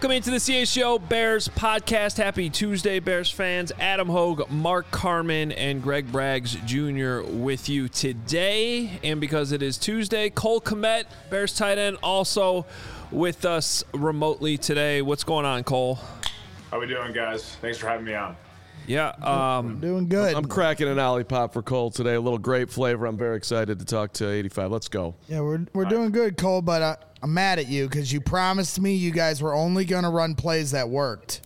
Welcome into the CHGO Bears podcast. Happy Tuesday, Bears fans. Adam Hogue, Mark Carman, and Greg Braggs Jr. with you today. And because it is Tuesday, Cole Kmet, Bears tight end, also with us remotely today. What's going on, Cole? How we doing, guys? Thanks for having me on. Yeah, doing good. I'm cracking an Olipop for Cole today. A little grape flavor. I'm very excited to talk to 85. Let's go. Yeah, we're doing good, Cole, but I'm mad at you because you promised me you guys were only going to run plays that worked.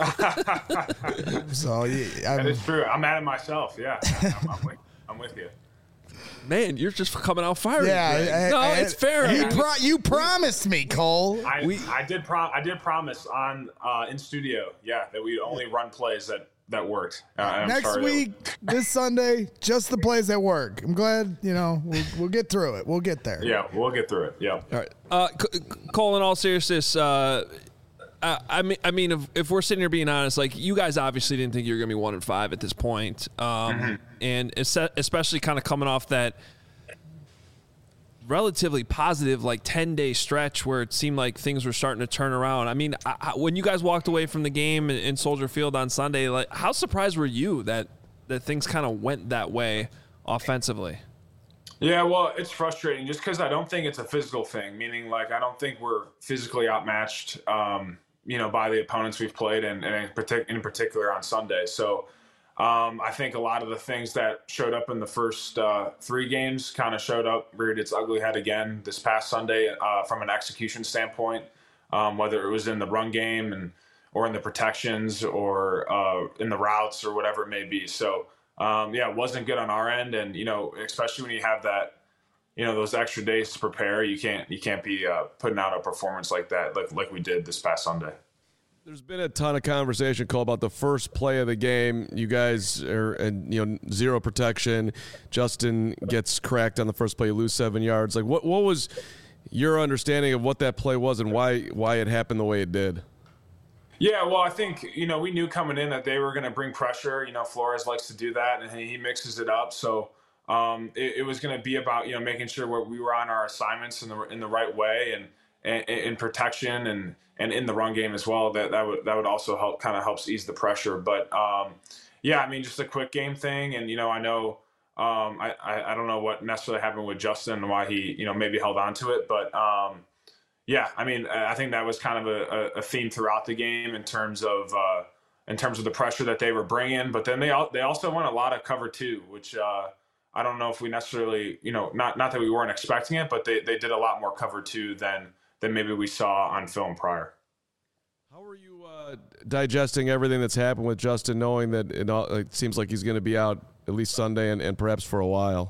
So that is true. I'm mad at myself. Yeah, I'm with you. Man, you're just coming out firing. Yeah, it's fair. You promised me, Cole. I did promise on in studio. Yeah, that we only run plays that worked. Next week, this Sunday, just the plays that work. I'm glad, we'll get through it. We'll get there. Yeah, we'll get through it. Yeah. All right. Cole, in all seriousness, I mean, if we're sitting here being honest, like, you guys obviously didn't think you were going to be 1-5 at this point. And especially kind of coming off that relatively positive, like, 10-day stretch where it seemed like things were starting to turn around. I mean, when you guys walked away from the game in Soldier Field on Sunday, like, how surprised were you that things kind of went that way offensively? Yeah, well, it's frustrating just because I don't think it's a physical thing, meaning, like, I don't think we're physically outmatched, by the opponents we've played, and in particular on Sunday. So I think a lot of the things that showed up in the first 3 games kind of showed up, reared its ugly head again this past Sunday from an execution standpoint, whether it was in the run game or in the protections or in the routes or whatever it may be. So, it wasn't good on our end. And, especially when you have that, those extra days to prepare, you can't be putting out a performance like that, like we did this past Sunday. There's been a ton of conversation, Cole, about the first play of the game. You guys are, zero protection. Justin gets cracked on the first play. You lose 7 yards. Like, what was your understanding of what that play was and why it happened the way it did? Yeah, well, I think, we knew coming in that they were going to bring pressure. Flores likes to do that, and he mixes it up. So it was going to be about, making sure we were on our assignments in the right way and in protection and in the run game as well. That would also helps ease the pressure. But just a quick game thing. And I know I don't know what necessarily happened with Justin and why he maybe held on to it, but I think that was kind of a theme throughout the game in terms of the pressure that they were bringing. But then they also went a lot of cover 2, which I don't know if we necessarily not that we weren't expecting it, but they did a lot more cover 2 than maybe we saw on film prior. How are you digesting everything that's happened with Justin, knowing that it seems like he's going to be out at least Sunday and perhaps for a while?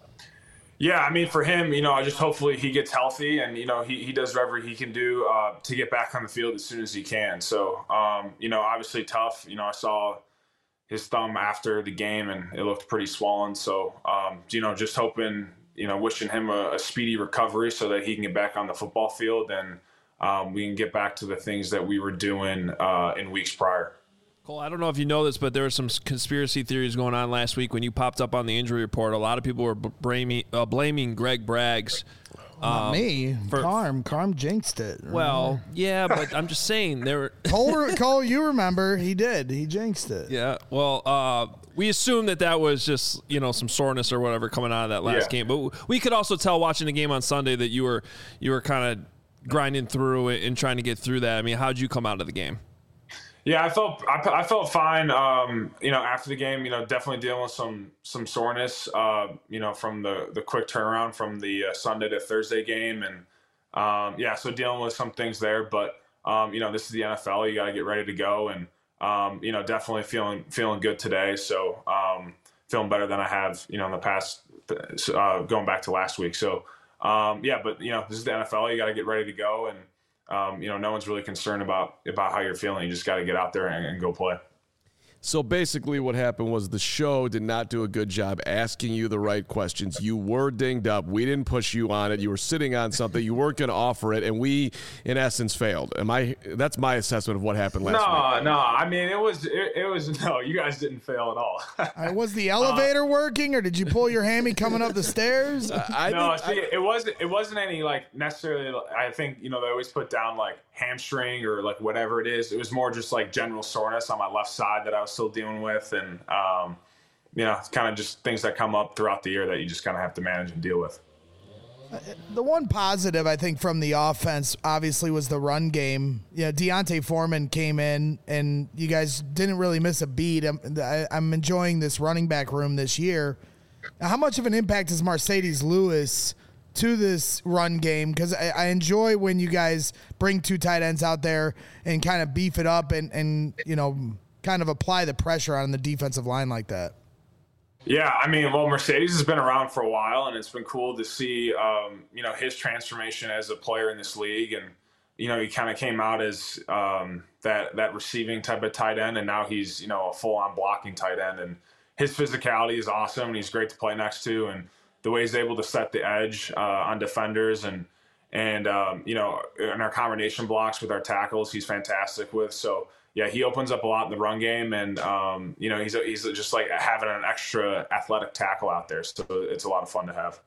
Yeah, I mean, for him, I just hopefully he gets healthy and, he does whatever he can do to get back on the field as soon as he can. So, obviously tough. I saw his thumb after the game and it looked pretty swollen. So, just hoping, wishing him a speedy recovery so that he can get back on the football field and we can get back to the things that we were doing in weeks prior. Cole, I don't know if you know this, but there were some conspiracy theories going on last week when you popped up on the injury report. A lot of people were blaming Greg Braggs. Not me. Carm jinxed it. Remember? Well, yeah, but I'm just saying there were Cole, you remember he did. He jinxed it. Yeah. Well, we assumed that was just some soreness or whatever coming out of that last game. But we could also tell watching the game on Sunday that you were kind of grinding through it and trying to get through that. I mean, how'd you come out of the game? Yeah, I felt fine. After the game, definitely dealing with some soreness. From the quick turnaround from the Sunday to Thursday game, and so dealing with some things there. But this is the NFL. You got to get ready to go, and definitely feeling good today. So feeling better than I have in the past, going back to last week. So but this is the NFL. You got to get ready to go, and no one's really concerned about how you're feeling. You just got to get out there and go play. So basically what happened was the show did not do a good job asking you the right questions. You were dinged up. We didn't push you on it. You were sitting on something. You weren't going to offer it, and we, in essence, failed. That's my assessment of what happened last week. No. I mean, it was no, you guys didn't fail at all. Was the elevator working, or did you pull your hammy coming up the stairs? It wasn't any, like, necessarily, I think, they always put down, like, hamstring or like whatever it is. It was more just like general soreness on my left side that I was still dealing with. And, it's kind of just things that come up throughout the year that you just kind of have to manage and deal with. The one positive, I think, from the offense, obviously, was the run game. Deontay Foreman came in, and you guys didn't really miss a beat. I'm enjoying this running back room this year. Now, how much of an impact is Marcedes Lewis to this run game? Because I enjoy when you guys bring two tight ends out there and kind of beef it up and kind of apply the pressure on the defensive line like that. Yeah, I mean, well, Marcedes has been around for a while, and it's been cool to see, his transformation as a player in this league. And, he kind of came out as that receiving type of tight end, and now he's, a full-on blocking tight end. And his physicality is awesome, and he's great to play next to. And the way he's able to set the edge on defenders and in our combination blocks with our tackles, he's fantastic with. So, yeah, he opens up a lot in the run game, and he's just like having an extra athletic tackle out there. So it's a lot of fun to have.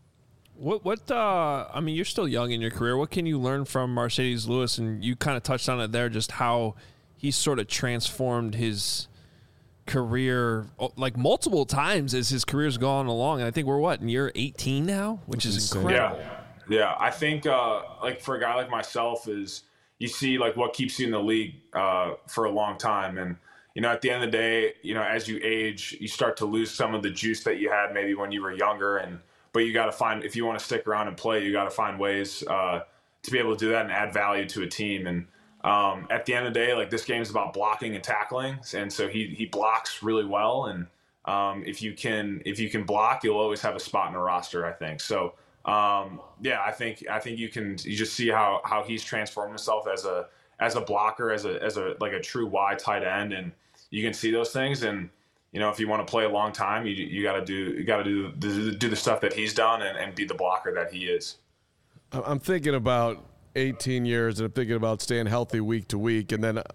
You're still young in your career. What can you learn from Marcedes Lewis? And you kind of touched on it there, just how he's sort of transformed his career like multiple times as his career's gone along. And I think we're in year 18 now, which is incredible. Yeah. I think for a guy like myself is, you see like what keeps you in the league for a long time. And, at the end of the day, as you age, you start to lose some of the juice that you had maybe when you were younger. But you got to find, if you want to stick around and play, you got to find ways to be able to do that and add value to a team. And at the end of the day, like this game is about blocking and tackling. And so he blocks really well. And if you can block, you'll always have a spot in the roster, I think. So, I think you just see how he's transformed himself as a blocker, as a like a true wide tight end, and you can see those things. And if you want to play a long time, you got to do the stuff that he's done and be the blocker that he is. I'm thinking about 18 years, and I'm thinking about staying healthy week to week, and then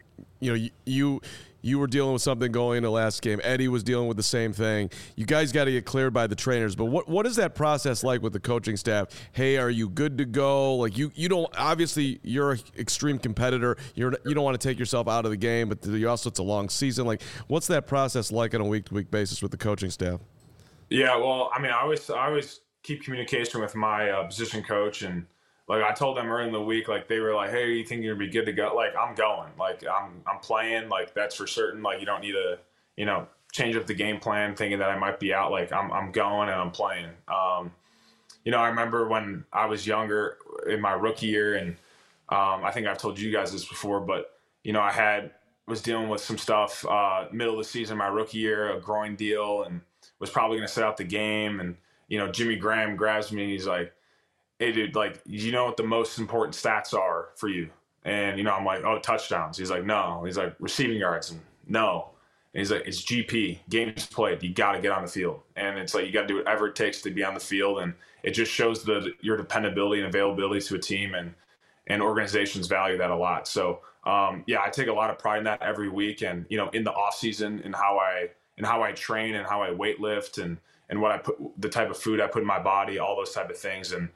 you were dealing with something going into last game. Eddie was dealing with the same thing. You guys got to get cleared by the trainers. But what is that process like with the coaching staff? Hey, are you good to go? Like you don't, obviously you're an extreme competitor. You don't want to take yourself out of the game, but it's a long season. Like what's that process like on a week-to-week basis with the coaching staff? Yeah, well, I mean, I always keep communication with my position coach, and like I told them early in the week, like they were like, "Hey, you think you're gonna be good to go?" Like I'm going, like I'm playing, like that's for certain. Like you don't need to, change up the game plan thinking that I might be out. Like I'm going and I'm playing. I remember when I was younger in my rookie year, and I think I've told you guys this before, but was dealing with some stuff middle of the season, my rookie year, a groin deal, and was probably gonna sit out the game. And Jimmy Graham grabs me and he's like, "Hey, dude, like, you know what the most important stats are for you?" And, I'm like, "Oh, touchdowns." He's like, "No." He's like, "Receiving yards." And no. And he's like, "It's GP, games played. You got to get on the field." And it's like, you got to do whatever it takes to be on the field. And it just shows your dependability and availability to a team, and organizations value that a lot. So, I take a lot of pride in that every week. And, in the off season, and how I train and how I weight lift and what I put, the type of food I put in my body, all those type of things. And,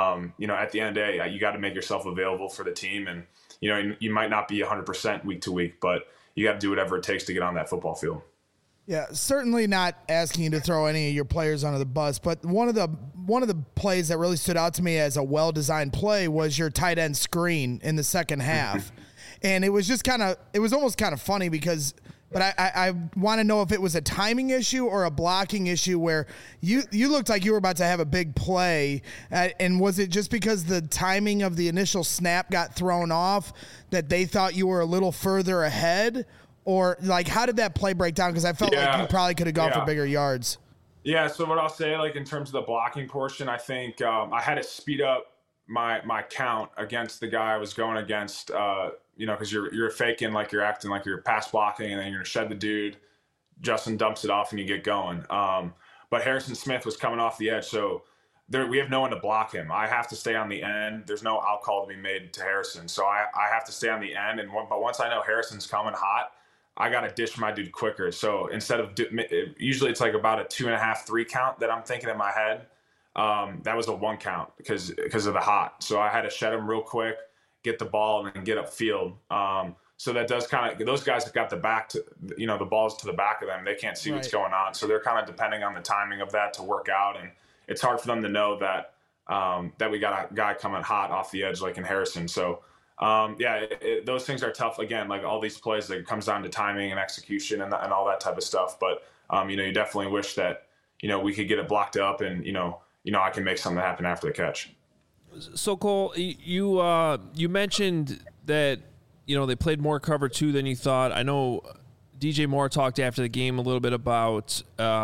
at the end of the day, you got to make yourself available for the team. And, you might not be 100% week to week, but you got to do whatever it takes to get on that football field. Yeah, certainly not asking you to throw any of your players under the bus, but one of the plays that really stood out to me as a well-designed play was your tight end screen in the second half. And it was just almost kind of funny because – but I want to know if it was a timing issue or a blocking issue where you looked like you were about to have a big play. And was it just because the timing of the initial snap got thrown off that they thought you were a little further ahead? Or, like, how did that play break down? Because I felt like you probably could have gone for bigger yards. Yeah, so what I'll say, like, in terms of the blocking portion, I think I had to speed up my count against the guy I was going against, because you're faking like you're acting like you're pass blocking, and then you're going to shed the dude. Justin dumps it off and you get going. But Harrison Smith was coming off the edge, so we have no one to block him. I have to stay on the end. There's no out call to be made to Harrison. So I have to stay on the end. But once I know Harrison's coming hot, I got to dish my dude quicker. So instead of usually it's like about a 2.5, 3 count that I'm thinking in my head. That was a 1 count because of the hot. So I had to shed him real quick get the ball and then get upfield. So that does kind of, those guys have got the back to, the ball's to the back of them. They can't see what's going on. So they're kind of depending on the timing of that to work out. And it's hard for them to know that, that we got a guy coming hot off the edge, like in Harrison. So, those things are tough. Again, like all these plays, that comes down to timing and execution and all that type of stuff. But, you definitely wish that, we could get it blocked up and, I can make something happen after the catch. So Cole, you mentioned that, they played more cover 2 than you thought. I know DJ Moore talked after the game a little bit about,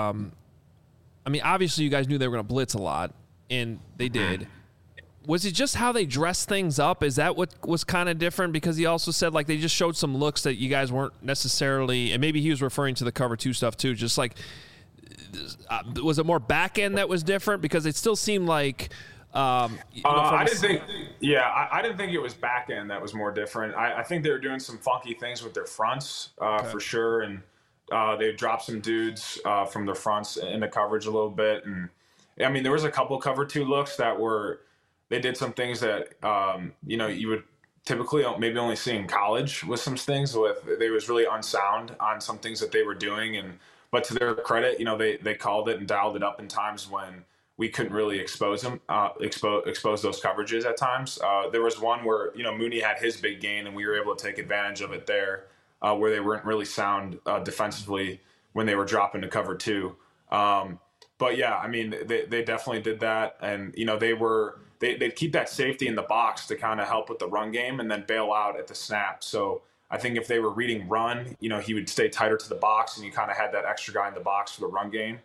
obviously you guys knew they were going to blitz a lot, and they did. Was it just how they dressed things up? Is that what was kind of different? Because he also said, like, they just showed some looks that you guys weren't necessarily, and maybe he was referring to the cover 2 stuff too, just like, was it more back end that was different? Because it still seemed like, I didn't think it was back end that was more different. I think they were doing some funky things with their fronts, for sure. And they dropped some dudes from their fronts into coverage a little bit. And there was a couple cover 2 looks that they did some things that, you would typically maybe only see in college with some things they was really unsound on some things that they were doing. But to their credit, they called it and dialed it up in times when we couldn't really expose those coverages at times. There was one where, Mooney had his big gain and we were able to take advantage of it there, where they weren't really sound defensively when they were dropping to cover 2. But yeah, they definitely did that. And, they'd keep that safety in the box to kind of help with the run game and then bail out at the snap. So I think if they were reading run, he would stay tighter to the box and you kind of had that extra guy in the box for the run game.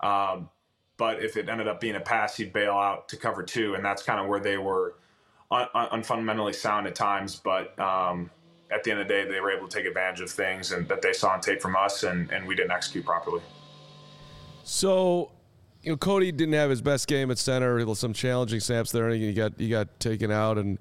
But if it ended up being a pass, he'd bail out to cover 2. And that's kind of where they were unfundamentally sound at times. But at the end of the day, they were able to take advantage of things and that they saw on tape from us, and we didn't execute properly. So, Cody didn't have his best game at center. Some challenging snaps there, and he got taken out. And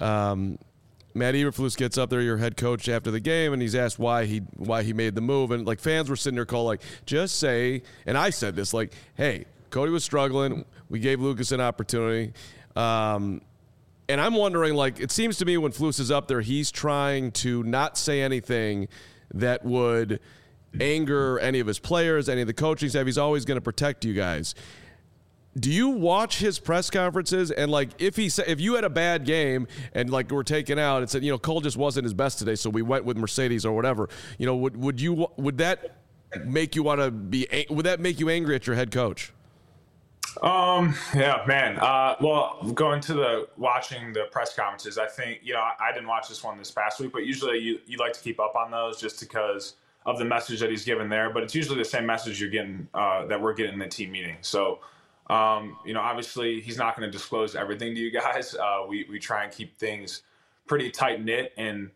Matt Eberflus gets up there, your head coach, after the game, and he's asked why he made the move. And like fans were sitting there calling, like, just say. And I said this, like, hey, Cody was struggling. We gave Lucas an opportunity. And I'm wondering, like, it seems to me when Flus is up there, he's trying to not say anything that would anger any of his players, any of the coaching staff. He's always going to protect you guys. Do you watch his press conferences? And like, if you had a bad game and like we're taken out and said, Cole just wasn't his best today, so we went with Mercedes or whatever, would that make you want to be? Would that make you angry at your head coach? Yeah, man. Well, going to watching the press conferences, I think, I didn't watch this one this past week, but usually you like to keep up on those just because of the message that he's given there. But it's usually the same message you're getting, that we're getting in the team meeting. So, obviously he's not going to disclose everything to you guys. We try and keep things pretty tight knit and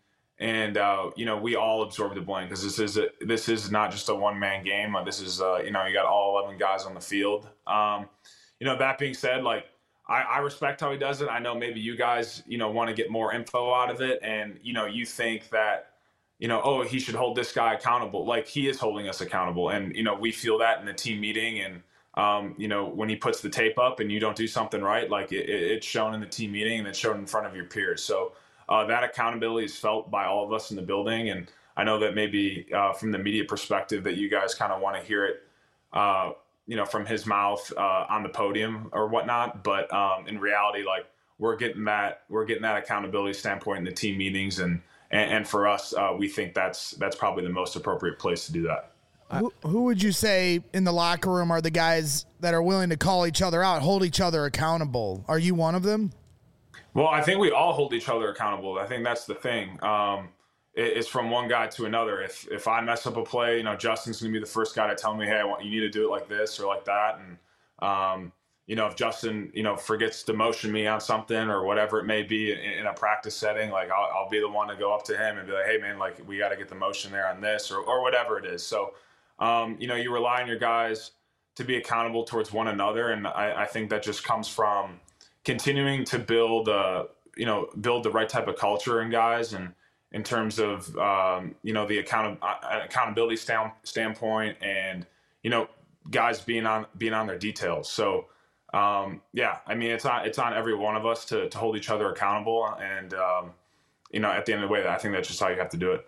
we all absorb the blame because this is not just a one-man game. This is, you got all 11 guys on the field. That being said, like, I respect how he does it. I know maybe you guys, want to get more info out of it. And, you think that, he should hold this guy accountable. Like, he is holding us accountable. And, we feel that in the team meeting. And, when he puts the tape up and you don't do something right, like it's shown in the team meeting and it's shown in front of your peers. So that accountability is felt by all of us in the building. And I know that maybe from the media perspective that you guys kind of want to hear it, from his mouth on the podium or whatnot. But in reality, like we're getting that accountability standpoint in the team meetings. And for us, we think that's probably the most appropriate place to do that. Who would you say in the locker room are the guys that are willing to call each other out, hold each other accountable? Are you one of them? Well, I think we all hold each other accountable. I think that's the thing. It's from one guy to another. If I mess up a play, Justin's going to be the first guy to tell me, hey, you need to do it like this or like that. And, if Justin, forgets to motion me on something or whatever it may be in a practice setting, like I'll be the one to go up to him and be like, hey, man, like we got to get the motion there on this or whatever it is. So, you rely on your guys to be accountable towards one another. And I think that just comes from continuing to build the right type of culture in guys and in terms of, the accountability standpoint and, guys being on their details. So, it's on every one of us to hold each other accountable. And, at the end of the way, I think that's just how you have to do it.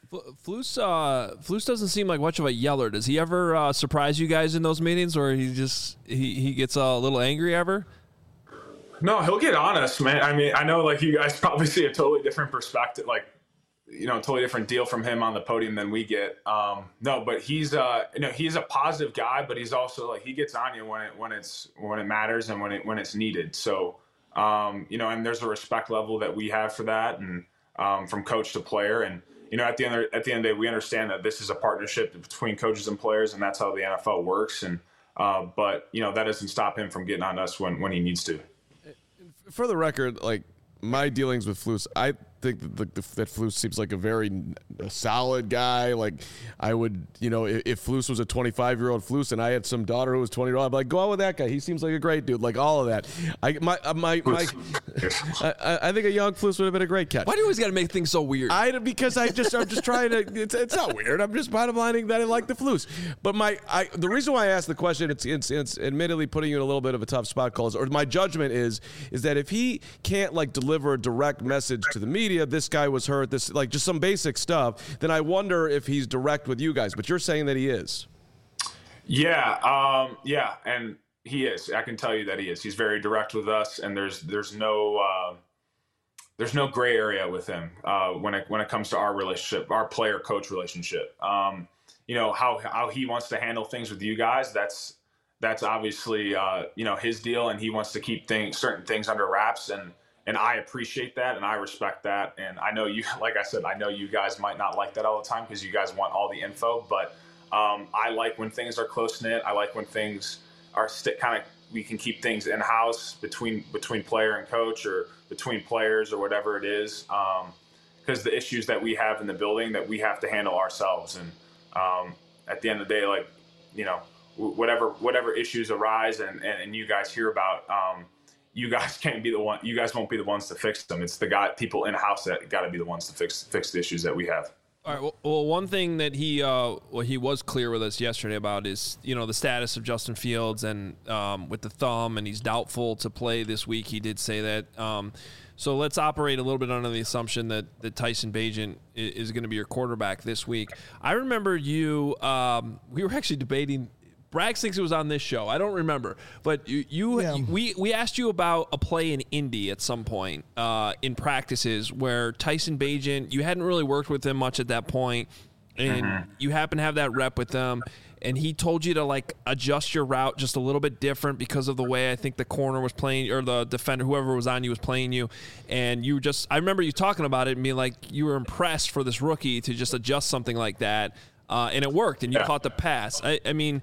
Flus doesn't seem like much of a yeller. Does he ever surprise you guys in those meetings, or he gets a little angry ever? No, he'll get on us, man. I mean, I know like you guys probably see a totally different perspective, like, totally different deal from him on the podium than we get. No, but he's he's a positive guy, but he's also like, he gets on you when it matters and when it's needed. So, and there's a respect level that we have for that, and from coach to player. And, at the end of the day, we understand that this is a partnership between coaches and players, and that's how the NFL works. And, but that doesn't stop him from getting on us when he needs to. For the record, like, my dealings with Flus, I think that Flus seems like a very solid guy. Like, I would, if Flus was a 25-year-old Flus and I had some daughter who was 20-year-old, I'd be like, go out with that guy. He seems like a great dude. Like, all of that. I think a young Flus would have been a great catch. Why do you always got to make things so weird? Because I'm just trying to. It's not weird. I'm just bottom lining that I like the Flus. But the reason why I asked the question, it's admittedly putting you in a little bit of a tough spot, Coles, or my judgment is that if he can't like deliver a direct message to the media, this guy was hurt, this like just some basic stuff, then I wonder if he's direct with you guys. But you're saying that he is. Yeah, and he is. I can tell you that he is. He's very direct with us, and there's no gray area with him when it comes to our relationship, our player coach relationship. How he wants to handle things with you guys. That's obviously his deal, and he wants to keep certain things under wraps, and I appreciate that, and I respect that. And I know you, like I said, I know you guys might not like that all the time because you guys want all the info, but I like when things are close knit. I like when things are we can keep things in house between player and coach, or between players, or whatever it is. Because the issues that we have in the building that we have to handle ourselves, and at the end of the day, like whatever issues arise and you guys hear about. You guys can't be the one. You guys won't be the ones to fix them. It's people in house that got to be the ones to fix the issues that we have. All right. Well, one thing that he was clear with us yesterday about is the status of Justin Fields and with the thumb, and he's doubtful to play this week. He did say that. So let's operate a little bit under the assumption that Tyson Bagent is going to be your quarterback this week. I remember you. We were actually debating. Braggs thinks it was on this show. I don't remember, but we asked you about a play in Indy at some point in practices where Tyson Bagent, you hadn't really worked with him much at that point, and you happen to have that rep with them, and he told you to like adjust your route just a little bit different because of the way I think the corner was playing, or the defender, whoever was on you was playing you, and I remember you talking about it and being like you were impressed for this rookie to just adjust something like that. And it worked, and you caught the pass. I mean,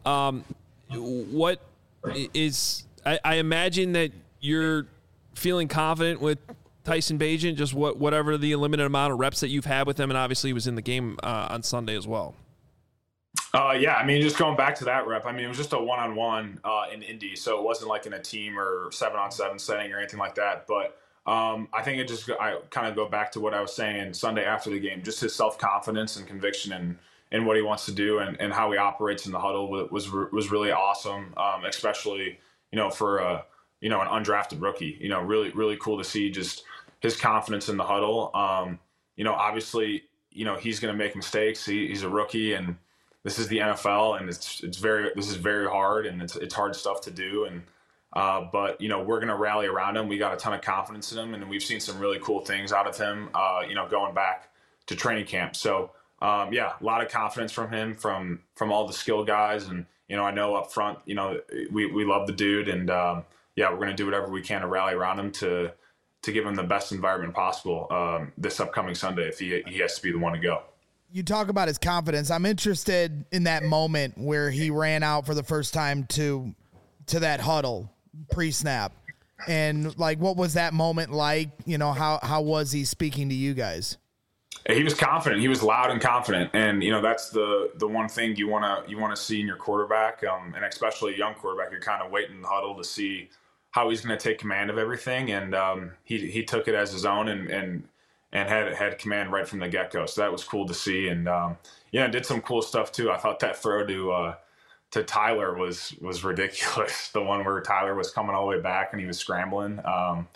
what is? I imagine that you're feeling confident with Tyson Bagent, just whatever the limited amount of reps that you've had with him, and obviously he was in the game on Sunday as well. Yeah, I mean, just going back to that rep, I mean, it was just a one-on-one in Indy, so it wasn't like in a team or 7-on-7 setting or anything like that. But I think I kind of go back to what I was saying Sunday after the game, just his self-confidence and conviction and what he wants to do and how he operates in the huddle was really awesome, especially, for an undrafted rookie. Really, really cool to see just his confidence in the huddle. Obviously, he's going to make mistakes. He's a rookie, and this is the NFL, and this is very hard, and it's hard stuff to do. And but we're going to rally around him. We got a ton of confidence in him, and we've seen some really cool things out of him. Going back to training camp. So. A lot of confidence from him, from all the skill guys. And, I know up front, we love the dude, and we're going to do whatever we can to rally around him to give him the best environment possible this upcoming Sunday if he has to be the one to go. You talk about his confidence. I'm interested in that moment where he ran out for the first time to that huddle pre-snap. And like, what was that moment like? How was he speaking to you guys? He was confident. He was loud and confident, and that's the one thing you want to see in your quarterback, and especially a young quarterback. You're kind of waiting in the huddle to see how he's going to take command of everything, and he took it as his own and had command right from the get go. So that was cool to see, and did some cool stuff too. I thought that throw to Tyler was ridiculous. The one where Tyler was coming all the way back and he was scrambling.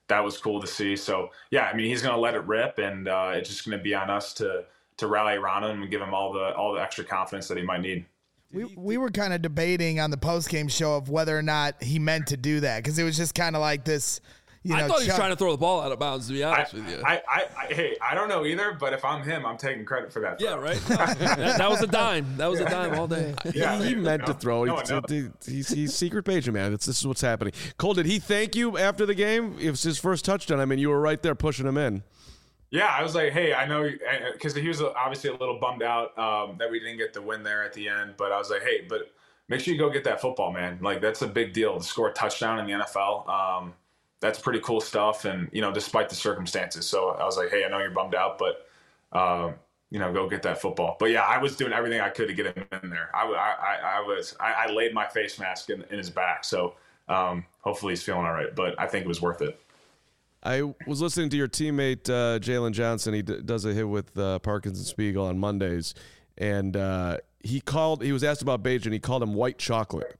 that was cool to see. So yeah, I mean, he's going to let it rip, and it's just going to be on us to rally around him and give him all the extra confidence that he might need. We were kind of debating on the post-game show of whether or not he meant to do that, because it was just kind of like this. I thought he was trying to throw the ball out of bounds, to be honest with you. Hey, I don't know either, but if I'm him, I'm taking credit for that. Yeah, right? That was a dime. That was a dime all day. Yeah, he meant to throw. He's secret paging, man. This is what's happening. Cole, did he thank you after the game? It was his first touchdown. I mean, you were right there pushing him in. Yeah, I was like, hey, I know, because he was obviously a little bummed out that we didn't get the win there at the end. But I was like, hey, but make sure you go get that football, man. Like, that's a big deal to score a touchdown in the NFL. That's pretty cool stuff, and despite the circumstances. So I was like, hey, I know you're bummed out, but go get that football. But yeah, I was doing everything I could to get him in there. I laid my face mask in his back, so hopefully he's feeling all right. But I think it was worth it. I was listening to your teammate Jalen Johnson. He does a hit with Parkinson Spiegel on Mondays, and he was asked about Bagent. He called him white chocolate.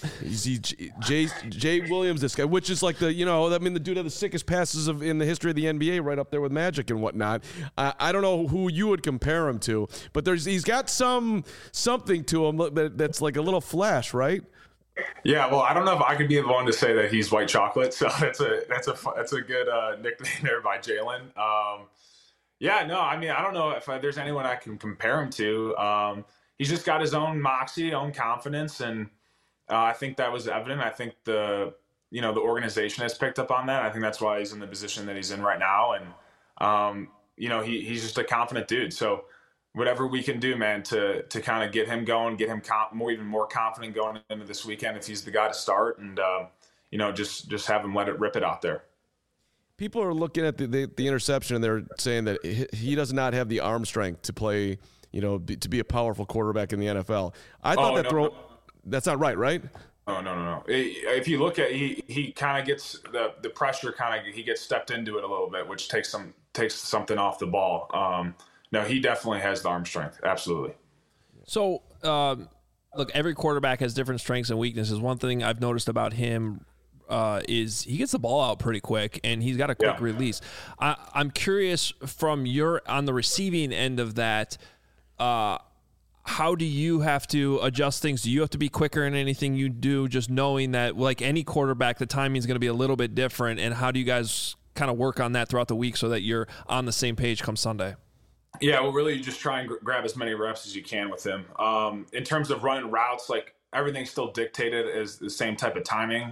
Jay Williams, this guy, which is like the dude had the sickest passes in the history of the NBA, right up there with Magic and whatnot. I don't know who you would compare him to, but he's got something to him that's like a little flash, right? Yeah, well, I don't know if I could be the one to say that he's white chocolate. So that's a good nickname there by Jalen. Yeah, no, I mean, I don't know if there's anyone I can compare him to. He's just got his own moxie, own confidence, and I think that was evident. I think the organization has picked up on that. I think that's why he's in the position that he's in right now. And, he's just a confident dude. So whatever we can do, man, to kind of get him going, get him even more confident going into this weekend if he's the guy to start, and, just have him let it rip it out there. People are looking at the interception, and they're saying that he does not have the arm strength to play, to be a powerful quarterback in the NFL. I thought throw... No. That's not right? Oh, no. If you look at he kind of gets the pressure, he gets stepped into it a little bit, which takes something off the ball. No, he definitely has the arm strength. Absolutely. So, look, every quarterback has different strengths and weaknesses. One thing I've noticed about him is he gets the ball out pretty quick, and he's got a quick release. I'm curious from on the receiving end of that, how do you have to adjust things? Do you have to be quicker in anything you do, just knowing that, like any quarterback, the timing is going to be a little bit different? And how do you guys kind of work on that throughout the week so that you're on the same page come Sunday? Yeah, well, really, you just try and grab as many reps as you can with him. In terms of running routes, like everything's still dictated as the same type of timing.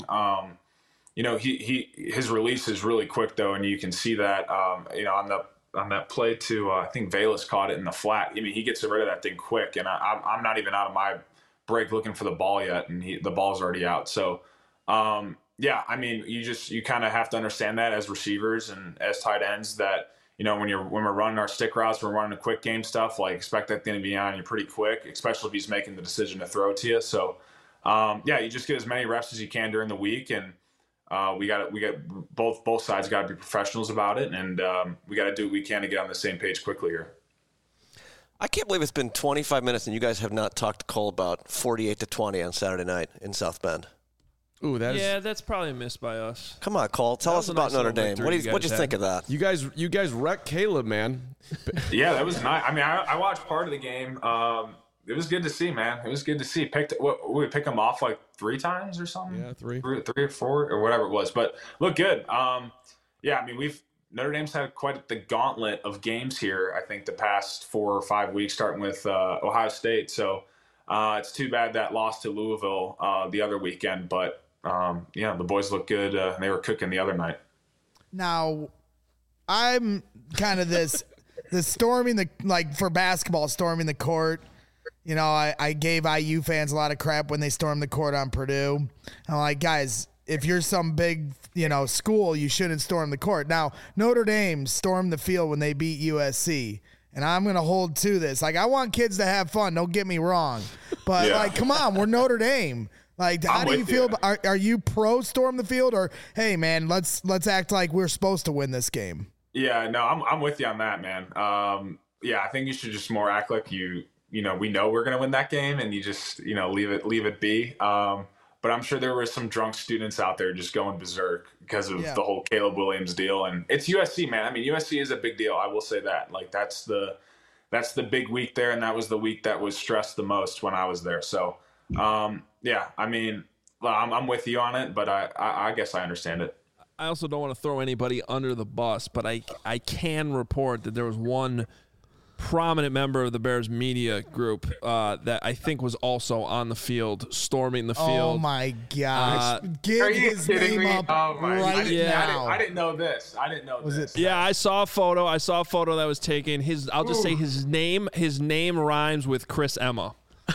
His release is really quick though, and you can see that on that play to I think Velus caught it in the flat. I mean, he gets rid of that thing quick, and I'm not even out of my break looking for the ball yet, and the ball's already out. So, yeah, I mean, you kind of have to understand that as receivers and as tight ends that when we're running our stick routes, we're running the quick game stuff. Like expect that thing to be on you pretty quick, especially if he's making the decision to throw to you. So, yeah, you just get as many reps as you can during the week, and we got both sides got to be professionals about it, and we got to do what we can to get on the same page quickly here. I can't believe it's been 25 minutes and you guys have not talked to Cole about 48-20 on Saturday night in South Bend. Ooh, that's probably a miss by us. Come on, Cole, tell us about Notre Dame. What did you think of that? You guys wrecked Caleb, man. Yeah, that was nice. I mean, I watched part of the game. It was good to see, man. It was good to see. We pick him off like 3 times or something. Yeah, 3 or 4 or whatever it was. But look good. Yeah, I mean, Notre Dame's had quite the gauntlet of games here. I think the past 4 or 5 weeks, starting with Ohio State. So it's too bad that loss to Louisville the other weekend. But yeah, the boys look good. They were cooking the other night. Now, I'm kind of the storming for basketball, storming the court. I gave IU fans a lot of crap when they stormed the court on Purdue. I'm like, guys, if you're some big, school, you shouldn't storm the court. Now, Notre Dame stormed the field when they beat USC, and I'm going to hold to this. Like, I want kids to have fun. Don't get me wrong. But, come on, we're Notre Dame. Like, how do you feel? Are you pro storm the field, or, hey, man, let's act like we're supposed to win this game? Yeah, no, I'm with you on that, man. Yeah, I think you should just more act like we know we're going to win that game, and you just, leave it be. But but I'm sure there were some drunk students out there just going berserk because of the whole Caleb Williams deal. And it's USC, man. I mean, USC is a big deal. I will say that. Like, that's the big week there, and that was the week that was stressed the most when I was there. So, yeah, I mean, I'm with you on it, but I guess I understand it. I also don't want to throw anybody under the bus, but I can report that there was one prominent member of the Bears media group that I think was also on the field, storming the field. Oh, my gosh. Get his name up right now. I didn't know this. Yeah, I saw a photo that was taken. I'll just say his name rhymes with Chris Emma.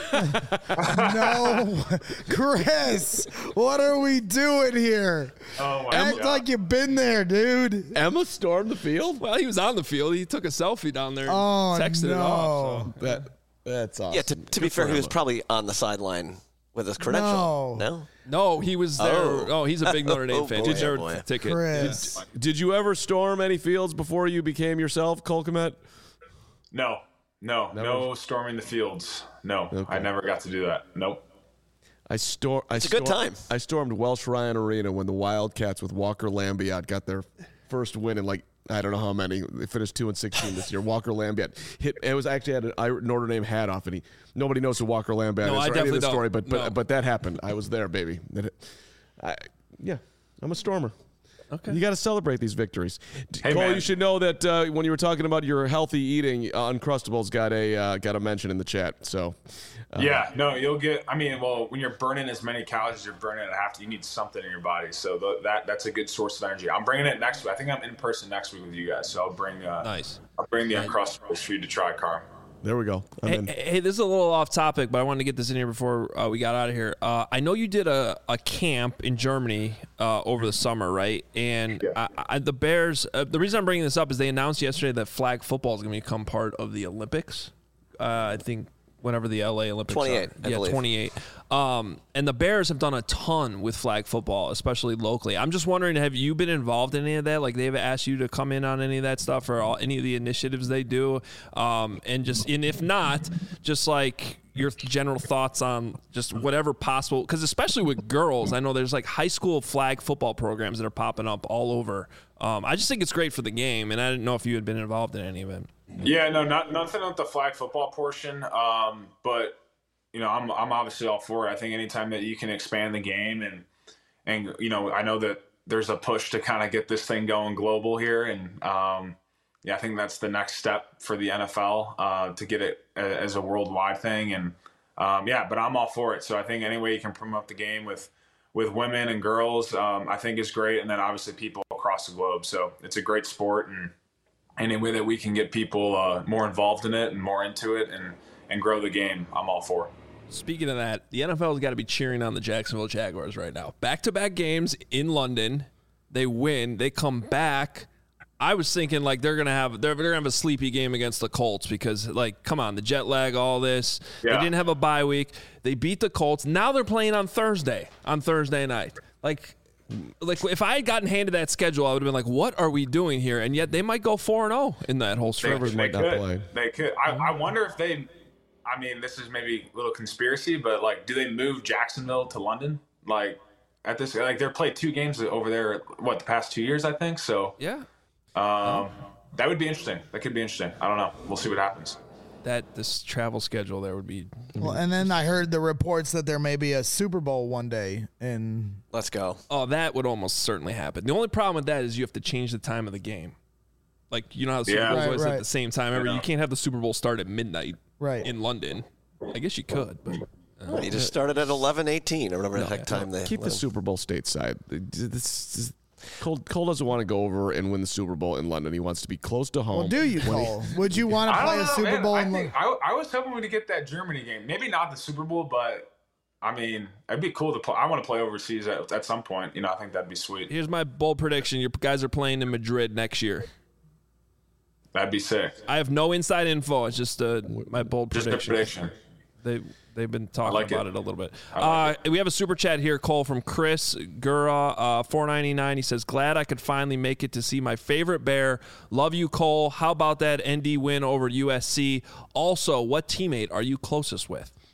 No, Chris, what are we doing here? Oh my Act God. like you've been there, dude. Emma stormed the field? Well, he was on the field. He took a selfie down there and texted it no. off. So. That's awesome. Yeah, to be fair, he was probably on the sideline with his credential. No, he was there. Oh, he's a big Notre Dame fan. Boy, Did you boy. ever ticket? Chris. Did you ever storm any fields before you became yourself, Cole Kmet? No storming the fields. No, I never got to do that. Nope. It's a good time. I stormed Welsh Ryan Arena when the Wildcats with Walker Lambiot got their first win in I don't know how many. They finished 2-16 this year. Walker Lambiot hit. It was actually had a Notre Dame hat off, and nobody knows who Walker Lambiot is or any of the story, but that happened. I was there, baby. I'm a stormer. Okay. You got to celebrate these victories. Hey, Cole, man. you should know that when you were talking about your healthy eating, Uncrustables got a mention in the chat. So, you'll get. I mean, well, when you're burning as many calories as you're burning at half, you need something in your body. So that's a good source of energy. I'm bringing it next week. I think I'm in person next week with you guys. So I'll bring. Nice. I'll bring the Uncrustables for you to try, Carm. there we go. Hey, this is a little off topic, but I wanted to get this in here before we got out of here. I know you did a camp in Germany over the summer, right? And the Bears, the reason I'm bringing this up is they announced yesterday that flag football is going to become part of the Olympics. I think whenever the LA Olympics 28, are. Yeah, 28. And the Bears have done a ton with flag football, especially locally. I'm just wondering, have you been involved in any of that? Like, they've asked you to come in on any of that stuff or any of the initiatives they do? And if not, just like your general thoughts on just whatever possible, because especially with girls, I know there's like high school flag football programs that are popping up all over. I just think it's great for the game, and I didn't know if you had been involved in any of it. Yeah, no, nothing with the flag football portion. But I'm obviously all for it. I think anytime that you can expand the game and I know that there's a push to kind of get this thing going global here, and I think that's the next step for the NFL to get it as a worldwide thing. And but I'm all for it. So I think any way you can promote the game with women and girls, I think is great. And then obviously people across the globe. So it's a great sport, and any way that we can get people more involved in it and more into it and grow the game, I'm all for. Speaking of that, the NFL's got to be cheering on the Jacksonville Jaguars right now. Back-to-back games in London, they win, they come back. I was thinking like they're gonna have a sleepy game against the Colts because come on, the jet lag, all this. Yeah. They didn't have a bye week. They beat the Colts. Now they're playing on Thursday night. Like if I had gotten handed that schedule, I would have been like, what are we doing here? And yet they might go 4-0 in that whole stretch. They could. I wonder if they, I mean, this is maybe a little conspiracy, but do they move Jacksonville to London? At this, they're played 2 games over there, the past 2 years, I think. So yeah. That would be interesting. That could be interesting. I don't know. We'll see what happens. This travel schedule there would be. Well, and then I heard the reports that there may be a Super Bowl one day in. Let's go. Oh, that would almost certainly happen. The only problem with that is you have to change the time of the game. You know how the Super Bowl is at the same time. You can't have the Super Bowl start at midnight in London. I guess you could, but you just started at 11:18 or whatever the heck time they keep the Super Bowl stateside. Cole doesn't want to go over and win the Super Bowl in London. He wants to be close to home. Well, do you, Cole? Would you want to play a Super Bowl in London? I was hoping we'd get that Germany game. Maybe not the Super Bowl, but I mean, it'd be cool to play. I want to play overseas at some point. I think that'd be sweet. Here's my bold prediction. Your guys are playing in Madrid next year. That'd be sick. I have no inside info. It's just my bold prediction. Just a prediction. They've been talking about it a little bit. Like we have a super chat here, Cole, from Chris Gura, $4.99. He says, glad I could finally make it to see my favorite Bear. Love you, Cole. How about that ND win over USC? Also, what teammate are you closest with?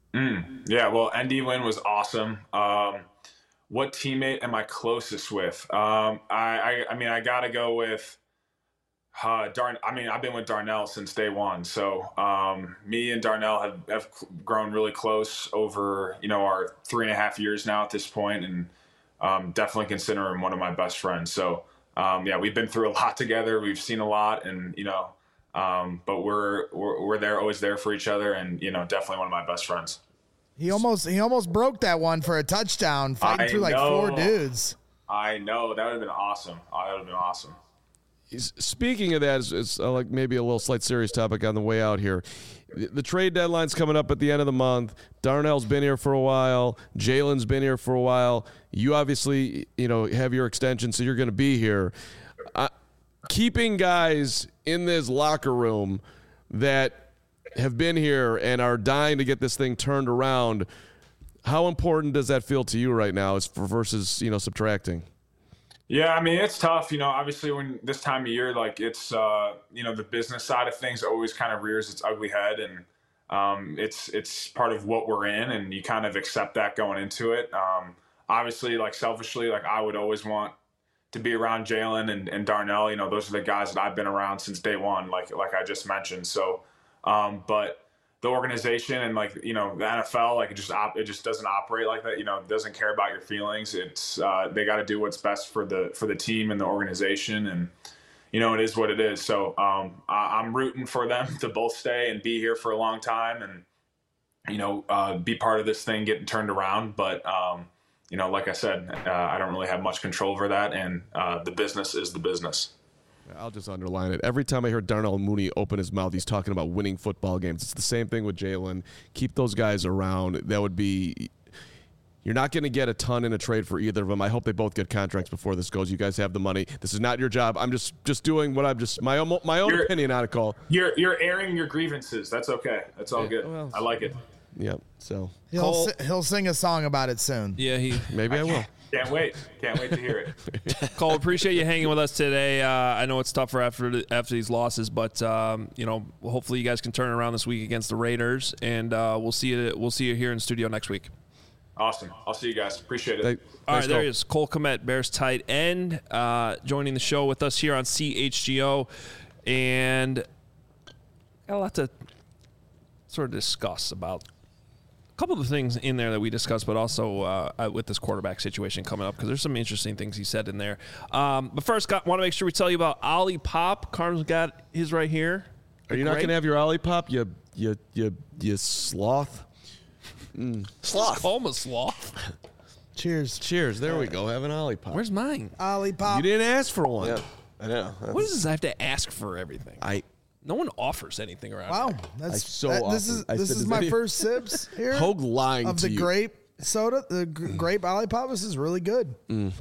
Yeah, well, Andy Wynn was awesome. What teammate am I closest with? I mean, I got to go with I've been with Darnell since day one. So me and Darnell have grown really close over, our 3.5 years now at this point, and definitely consider him one of my best friends. So yeah, we've been through a lot together. We've seen a lot, and but we're there, always there for each other, and definitely one of my best friends. He almost broke that one for a touchdown, fighting through like 4 dudes. I know, that would have been awesome. That would have been awesome. Speaking of that, it's like maybe a little slight serious topic on the way out here. The trade deadline's coming up at the end of the month. Darnell's been here for a while. Jalen's been here for a while. You obviously, have your extension, so you're going to be here. Keeping guys in this locker room that have been here and are dying to get this thing turned around, how important does that feel to you right now versus subtracting? Yeah, I mean, it's tough, obviously when this time of year, like it's, the business side of things always kind of rears its ugly head, and it's part of what we're in, and you kind of accept that going into it. Obviously, like selfishly, like I would always want to be around Jalen and Darnell. Those are the guys that I've been around since day one, like I just mentioned. So, but the organization and the NFL, like it just doesn't operate like that. It doesn't care about your feelings. It's they got to do what's best for the team and the organization, and it is what it is. So I'm rooting for them to both stay and be here for a long time, and be part of this thing getting turned around. But like I said, I don't really have much control over that, and the business is the business. I'll just underline it. Every time I hear Darnell Mooney open his mouth, he's talking about winning football games. It's the same thing with Jalen. Keep those guys around. That would be – you're not going to get a ton in a trade for either of them. I hope they both get contracts before this goes. You guys have the money. This is not your job. I'm just doing what I'm just – my own opinion on it, Cole. You're airing your grievances. That's okay. That's all good. Well, I like it. Yep. So he'll sing a song about it soon. Yeah, maybe I will. Can't wait to hear it. Cole, appreciate you hanging with us today. I know it's tougher after these losses, but hopefully you guys can turn it around this week against the Raiders, and we'll see you here in studio next week. Awesome. I'll see you guys. Appreciate it. All right, there he is, Cole Kmet, Bears tight end, joining the show with us here on CHGO, and got a lot to sort of discuss about. Couple of things in there that we discussed, but also with this quarterback situation coming up, because there's some interesting things he said in there. But first, want to make sure we tell you about Olipop. Carm's got his right here. Are you not going to have your Olipop, you sloth? Sloth. Call him a sloth. Cheers. There we go. Have an Olipop. Where's mine? Olipop. You didn't ask for one. Yeah, I know. What is this? I have to ask for everything. No one offers anything around here. Wow, this is my first sips here. Hogue lying of to the you. grape soda, the grape Olipop. This is really good. Yeah,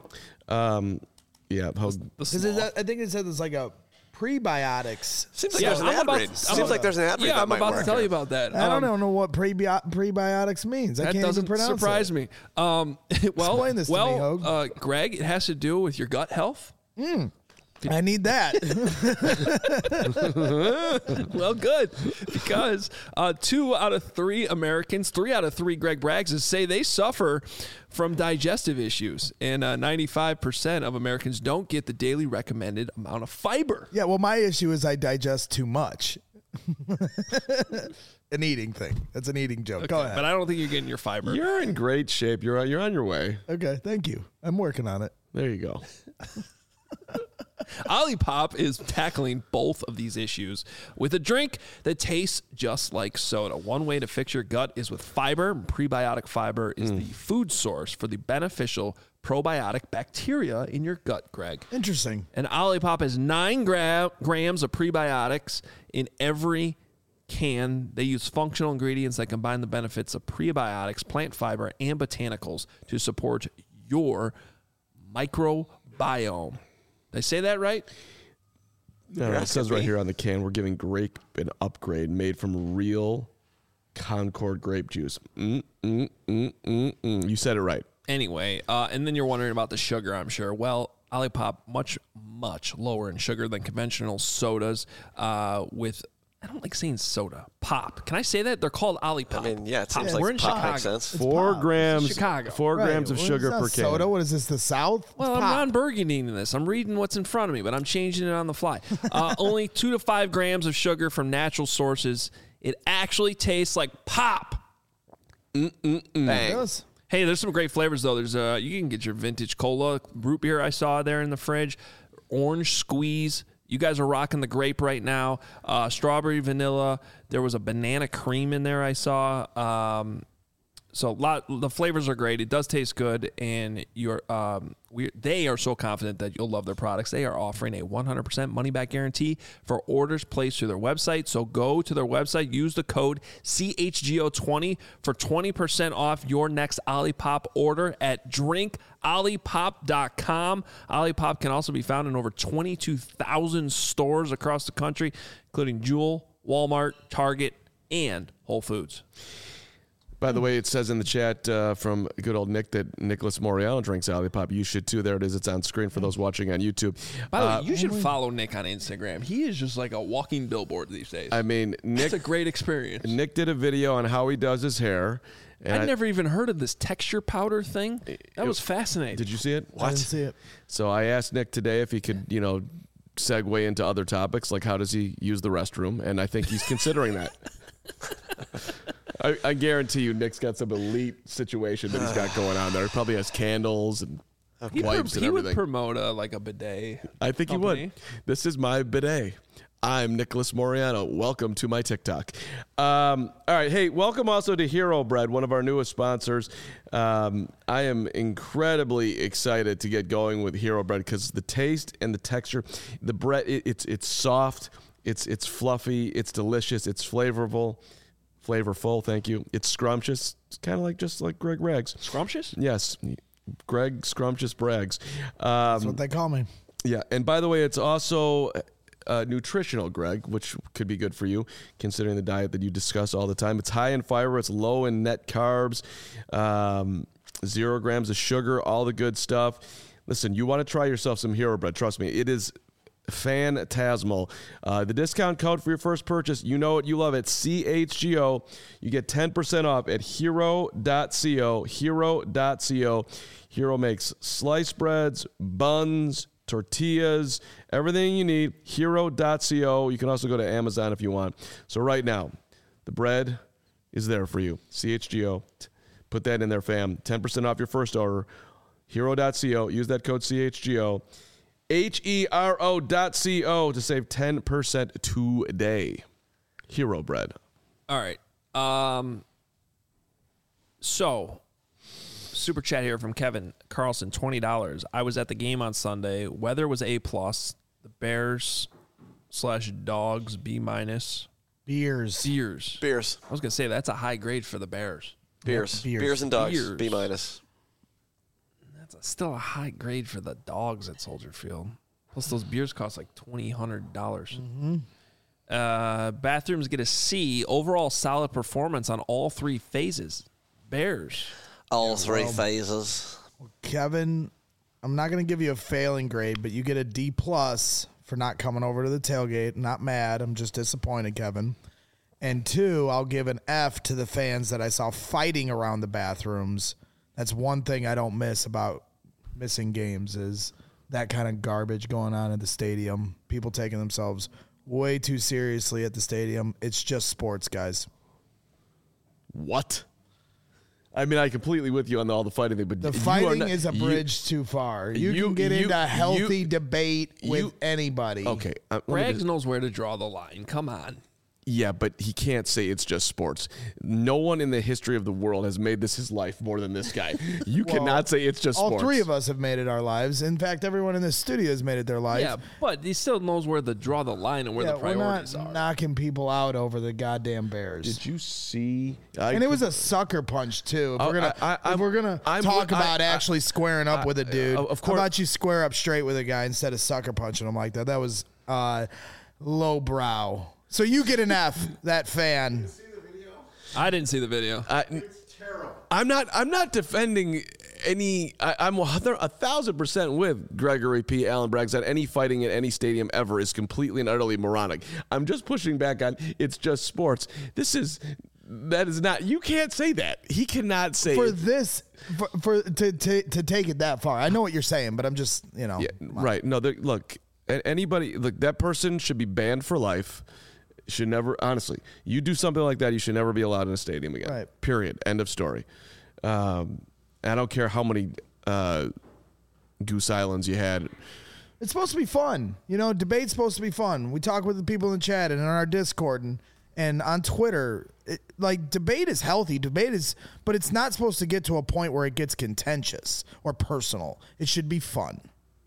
Hogue. I think it said there's like a prebiotics. Seems like there's an ad read. Seems like there's an ad read. Yeah, I'm about to tell you about that. I don't know what prebiotics means. I can't even pronounce it. That doesn't surprise me. Explain this to me, Hogue. Greg, it has to do with your gut health. I need that. Well, good, because 2 out of 3 Americans, 3 out of 3 Greg Braggses say they suffer from digestive issues, and 95% of Americans don't get the daily recommended amount of fiber. Yeah, well, my issue is I digest too much. An eating thing. That's an eating joke. Okay, Go ahead. but I don't think you're getting your fiber. You're in great shape. You're on your way. Okay, thank you. I'm working on it. There you go. Olipop is tackling both of these issues with a drink that tastes just like soda. One way to fix your gut is with fiber. Prebiotic fiber is the food source for the beneficial probiotic bacteria in your gut, Greg. Interesting. And Olipop has 9 grams of prebiotics in every can. They use functional ingredients that combine the benefits of prebiotics, plant fiber, and botanicals to support your microbiome. Did I say that right? No, it says right here on the can, we're giving grape an upgrade made from real Concord grape juice. You said it right. Anyway, and then you're wondering about the sugar, I'm sure. Well, Olipop, much, much lower in sugar than conventional sodas with I don't like saying soda. Pop. Can I say that? They're called Olipop. I mean, yeah, it seems Pop. like We're in pop Chicago. makes sense. 4 grams. Chicago. 4 grams of What sugar is that, per can. soda? What is this? The South? Well, It's I'm pop. Ron Burgundy in this. I'm reading what's in front of me, but I'm changing it on the fly. Only 2 to 5 grams of sugar from natural sources. It actually tastes like pop. Bang. Yes. Hey, there's some great flavors though. There's you can get your vintage cola, root beer I saw there in the fridge, orange squeeze. You guys are rocking the grape right now. Strawberry vanilla. There was a banana cream in there I saw. So the flavors are great. It does taste good, and they are so confident that you'll love their products. They are offering a 100% money back guarantee for orders placed through their website. So go to their website, use the code CHGO20 for 20% off your next Olipop order at drinkolipop.com. Olipop can also be found in over 22,000 stores across the country, including Jewel, Walmart, Target, and Whole Foods. By the way, it says in the chat from good old Nick that Nicholas Moriano drinks Olipop. You should too. There it is. It's on screen for those watching on YouTube. By the way, you should follow Nick on Instagram. He is just like a walking billboard these days. I mean, Nick. It's a great experience. Nick did a video on how he does his hair. And I'd never even heard of this texture powder thing. That was fascinating. Did you see it? I didn't see it. So I asked Nick today if he could, segue into other topics, like how does he use the restroom, and I think he's considering that. I guarantee you Nick's got some elite situation that he's got going on there. He probably has candles and wipes and he everything. would promote a bidet. I think company. he would. This is my bidet. I'm Nicholas Moriano. Welcome to my TikTok. All right. Hey, welcome also to Hero Bread, one of our newest sponsors. I am incredibly excited to get going with Hero Bread because the taste and the texture, the bread, it's soft, it's fluffy, it's delicious, it's flavorful. Thank you. It's scrumptious. It's kind of just like Greg Braggs. Scrumptious? Yes. Greg Scrumptious Braggs. That's what they call me. Yeah. And by the way, it's also nutritional, Greg, which could be good for you considering the diet that you discuss all the time. It's high in fiber. It's low in net carbs, 0 grams of sugar, all the good stuff. Listen, you want to try yourself some Hero Bread. Trust me, it is phantasmal. The discount code for your first purchase, you know it, you love it, CHGO. You get 10% off at hero.co. Hero.co. Hero makes sliced breads, buns, tortillas, everything you need. Hero.co. You can also go to Amazon if you want. So right now, the bread is there for you. CHGO. Put that in there, fam. 10% off your first order. Hero.co. Use that code CHGO. HERO.co to save 10% today. Hero Bread. All right. So, super chat here from Kevin Carlson, $20. I was at the game on Sunday. Weather was A+. The Bears/Dogs B-. Beers. Beers. I was gonna say that's a high grade for the Bears. Beers. Beers. Beers and dogs. Beers. B-. That's still a high grade for the Dogs at Soldier Field. Plus, those beers cost like $2,000. Mm-hmm. Bathrooms get a C. Overall, solid performance on all 3 phases. Bears. All 3 phases. Kevin, I'm not going to give you a failing grade, but you get a D+ for not coming over to the tailgate. Not mad. I'm just disappointed, Kevin. And 2, I'll give an F to the fans that I saw fighting around the bathrooms. That's one thing I don't miss about missing games is that kind of garbage going on at the stadium. People taking themselves way too seriously at the stadium. It's just sports, guys. What? I mean, I completely with you on all the fighting thing, but The fighting is a bridge too far. You can get into healthy debate with anybody. Okay. Braggs knows where to draw the line. Come on. Yeah, but he can't say it's just sports. No one in the history of the world has made this his life more than this guy. You cannot say it's just sports. All 3 of us have made it our lives. In fact, everyone in this studio has made it their life. Yeah, but he still knows where to draw the line and where the priorities we're not are. knocking people out over the goddamn Bears. Did you see? And it was a sucker punch too. If we're gonna talk about actually squaring up with a dude, of course. how about you square up straight with a guy instead of sucker punching him like that? That was lowbrow. So you get an F, that fan. I didn't see the video. It's terrible. I'm not defending I'm 1,000% with Gregory P. Allen Braggs that any fighting at any stadium ever is completely and utterly moronic. I'm just pushing back on it's just sports. That is not. You can't say that. He cannot say to take it that far. I know what you're saying, but I'm just Yeah, right. No, look. Anybody, look, that person should be banned for life. Should never, honestly, you do something like that, you should never be allowed in a stadium again. Right. Period. End of story. I don't care how many goose islands you had. It's supposed to be fun. Debate's supposed to be fun. We talk with the people in the chat and in our Discord and on Twitter. Debate is healthy. But it's not supposed to get to a point where it gets contentious or personal. It should be fun.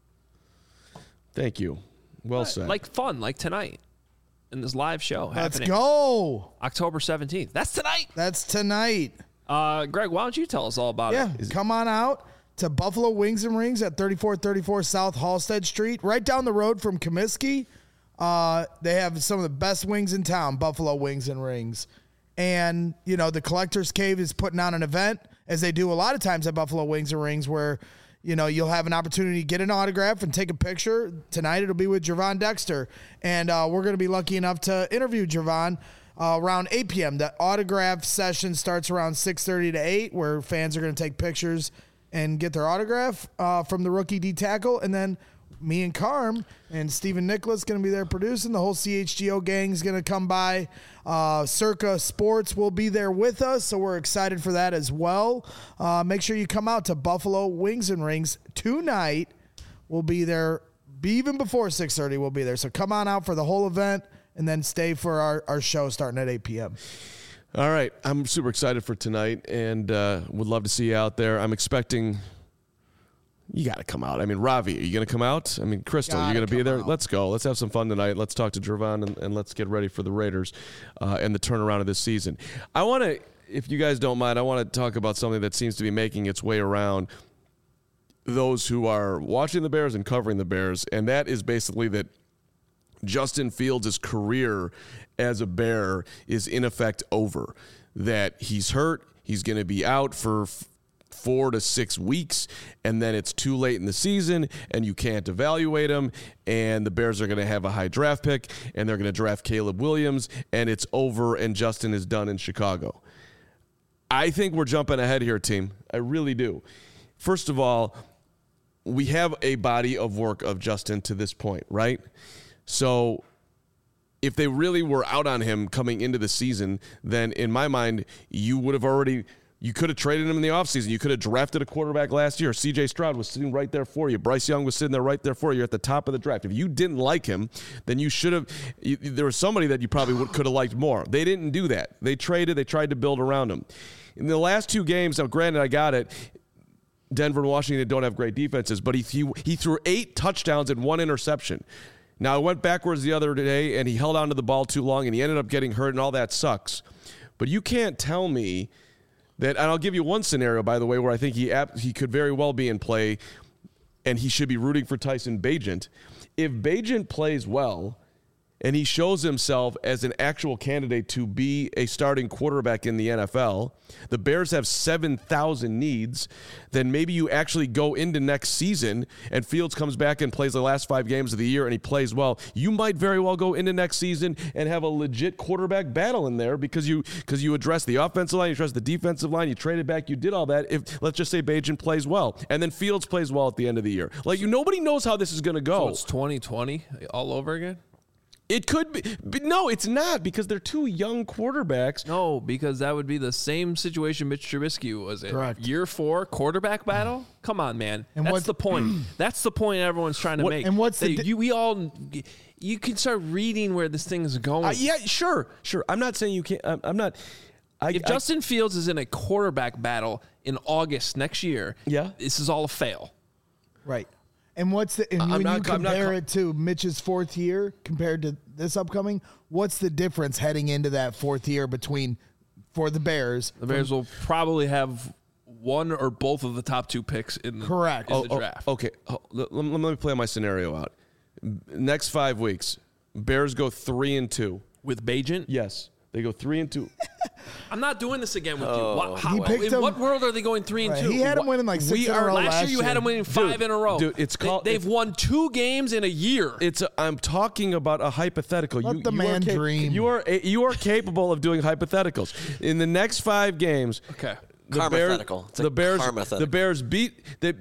Thank you. Well said. Like fun, like tonight. In this live show happening. Let's go. October 17th. That's tonight. Greg, why don't you tell us all about it? Yeah, come on out to Buffalo Wings and Rings at 3434 South Halstead Street, right down the road from Comiskey. They have some of the best wings in town, Buffalo Wings and Rings. And, the Collector's Cave is putting on an event, as they do a lot of times at Buffalo Wings and Rings, where you'll have an opportunity to get an autograph and take a picture. Tonight it'll be with Gervon Dexter. And we're going to be lucky enough to interview Gervon around 8 p.m. The autograph session starts around 6:30 to 8, where fans are going to take pictures and get their autograph from the rookie D tackle. And then me and Carm and Stephen Nicholas going to be there producing. The whole CHGO gang is going to come by. Circa Sports will be there with us, so we're excited for that as well. Make sure you come out to Buffalo Wings and Rings tonight. We'll be there even before 6:30. We'll be there, so come on out for the whole event and then stay for our show starting at 8 p.m. All right, I'm super excited for tonight and would love to see you out there. I'm expecting. You got to come out. I mean, Ravi, are you going to come out? I mean, Crystal, you're going to be there? Out. Let's go. Let's have some fun tonight. Let's talk to Gervon and let's get ready for the Raiders and the turnaround of this season. I want to, if you guys don't mind, I want to talk about something that seems to be making its way around those who are watching the Bears and covering the Bears, and that is basically that Justin Fields' career as a Bear is in effect over, that he's hurt, he's going to be out for 4 to 6 weeks, and then it's too late in the season, and you can't evaluate him, and the Bears are going to have a high draft pick, and they're going to draft Caleb Williams, and it's over, and Justin is done in Chicago. I think we're jumping ahead here, team. I really do. First of all, we have a body of work of Justin to this point, right? So if they really were out on him coming into the season, then in my mind, you could have traded him in the offseason. You could have drafted a quarterback last year. C.J. Stroud was sitting right there for you. Bryce Young was sitting there right there for you. You're at the top of the draft. If you didn't like him, then you should have – there was somebody that you probably could have liked more. They didn't do that. They traded. They tried to build around him. In the last 2 games, now granted, I got it, Denver and Washington don't have great defenses, but he threw 8 touchdowns and 1 interception. Now, I went backwards the other day, and he held on to the ball too long, and he ended up getting hurt, and all that sucks. But you can't tell me – that, and I'll give you one scenario, by the way, where I think he could very well be in play, and he should be rooting for Tyson Bagent. If Bagent plays well, and he shows himself as an actual candidate to be a starting quarterback in the NFL, the Bears have 7,000 needs, then maybe you actually go into next season and Fields comes back and plays the last 5 games of the year and he plays well. You might very well go into next season and have a legit quarterback battle in there because you address the offensive line, you address the defensive line, you traded back, you did all that. If let's just say Bagent plays well and then Fields plays well at the end of the year. Nobody knows how this is going to go. So it's 2020 all over again? It could be, but no, it's not because they're 2 young quarterbacks. No, because that would be the same situation Mitch Trubisky was in. Correct. Year 4 quarterback battle. Come on, man. And that's the point. That's the point everyone's trying to make. And what's you can start reading where this thing is going. Yeah, sure. I'm not saying you can't. I'm not. If Justin Fields is in a quarterback battle in August next year, this is all a fail. Right. And when you compare it to Mitch's 4th year compared to this upcoming, what's the difference heading into that 4th year for the Bears? The Bears will probably have one or both of the top 2 picks in the draft. Okay, let me play my scenario out. Next 5 weeks, Bears go 3-2 with Bagent. Yes, They go 3-2. I'm not doing this again with you. picked In him- what world are they going 3-2? He had him winning like 6 in a row Last year you had them winning 5 in a row. Dude, it's called. They've won 2 games in a year. I'm talking about a hypothetical. Let the man dream. You are capable of doing hypotheticals. In the next 5 games, Okay. the Bears beat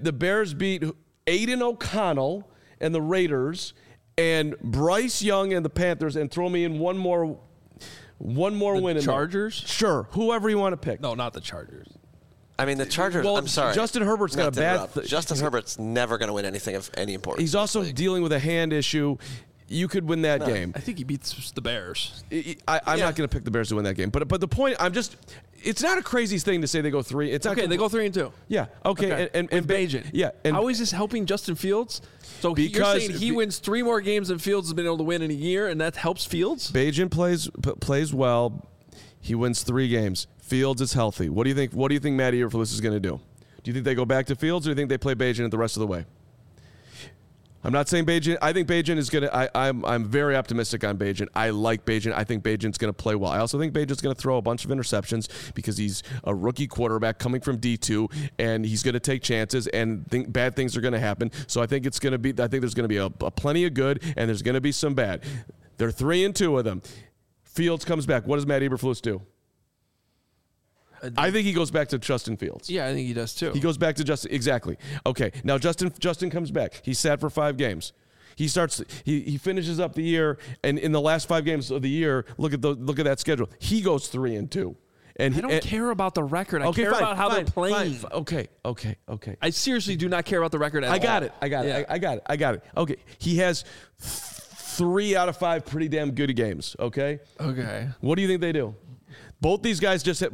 Aiden O'Connell and the Raiders and Bryce Young and the Panthers, and throw me in one more win. In Chargers? there. Sure, whoever you want to pick. No, not the Chargers. I mean, the Chargers, Well, I'm sorry. Justin Herbert's got a bad Justin Herbert's never going to win anything of any importance. He's also dealing with a hand issue. You could win that game. I think he beats the Bears. I'm not going to pick the Bears to win that game. But the point, it's not a crazy thing to say they go 3. It's not Okay, they go 3-2. Yeah. Okay. And Bajan. Yeah. And how is this helping Justin Fields? So you're saying he wins 3 more games than Fields has been able to win in a year, and that helps Fields? Bajan plays well. He wins 3 games. Fields is healthy. What do you think? What do you think Matt Eberflus is going to do? Do you think they go back to Fields, or do you think they play Bajan the rest of the way? I'm not saying Bajan. I think Bajan is going to. I'm very optimistic on Bajan. I like Bajan. I think Bajan's going to play well. I also think Bajan's going to throw a bunch of interceptions because he's a rookie quarterback coming from D2, and he's going to take chances, and bad things are going to happen. So I think it's going to be. I think there's going to be a plenty of good, and there's going to be some bad. They're 3-2 of them. Fields comes back. What does Matt Eberflus do? I think he goes back to Justin Fields. Yeah, I think he does too. He goes back to Justin. Exactly. Okay. Now Justin comes back. He sat for 5 games. He finishes up the year, and in the last 5 games of the year, look at that schedule. He goes 3-2. And I don't care about the record. I care about how they're playing. Okay. I seriously do not care about the record at all. I got it. Okay. He has 3 out of 5 pretty damn good games. Okay. Okay. What do you think they do? Both these guys just in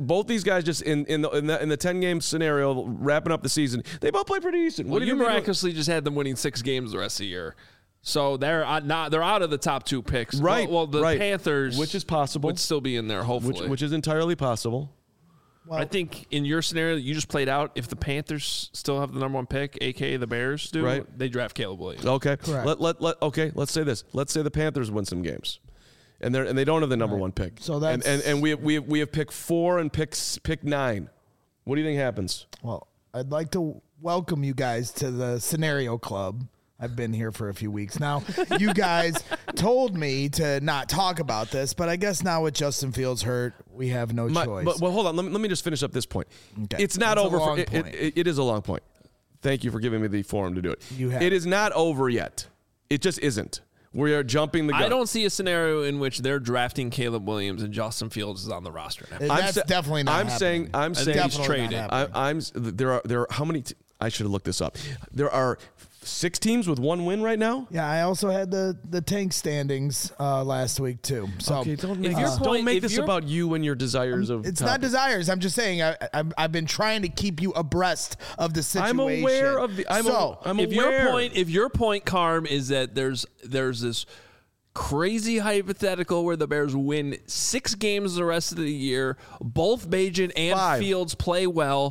the 10-game scenario, wrapping up the season, they both play pretty decent. Well, you miraculously just had them winning 6 games the rest of the year, so they're out of the top 2 picks. Right. Well, the Panthers, which is possible, would still be in there. Hopefully, which is entirely possible. Well, I think in your scenario that you just played out, if the Panthers still have the number 1 pick, aka the Bears do, right, they draft Caleb Williams. Okay. Correct. Let's say this. Let's say the Panthers win some games. And they don't have the number 1 pick. So that's and we have pick 4 and pick 9. What do you think happens? Well, I'd like to welcome you guys to the Scenario Club. I've been here for a few weeks now. You guys told me to not talk about this, but I guess now with Justin Fields hurt, we have no choice. But hold on. Let me just finish up this point. Okay. It's not That's over. a long point. It is a long point. Thank you for giving me the forum to do it. You have it is not over yet. It just isn't. We are jumping the gun. I don't see a scenario in which they're drafting Caleb Williams and Justin Fields is on the roster now. That's definitely not happening. I'm saying he's traded. There are how many? I should have looked this up. There are 6 teams with 1 win right now. Yeah, I also had the tank standings last week too. So Okay, don't point- make if this you're- about you and your desires of. it's topics. not desires. I'm just saying I've been trying to keep you abreast of the situation. I'm aware of the. I'm aware. If your point, Carm, is that there's this crazy hypothetical where the Bears win 6 games the rest of the year, both Bajan and 5. Fields play well.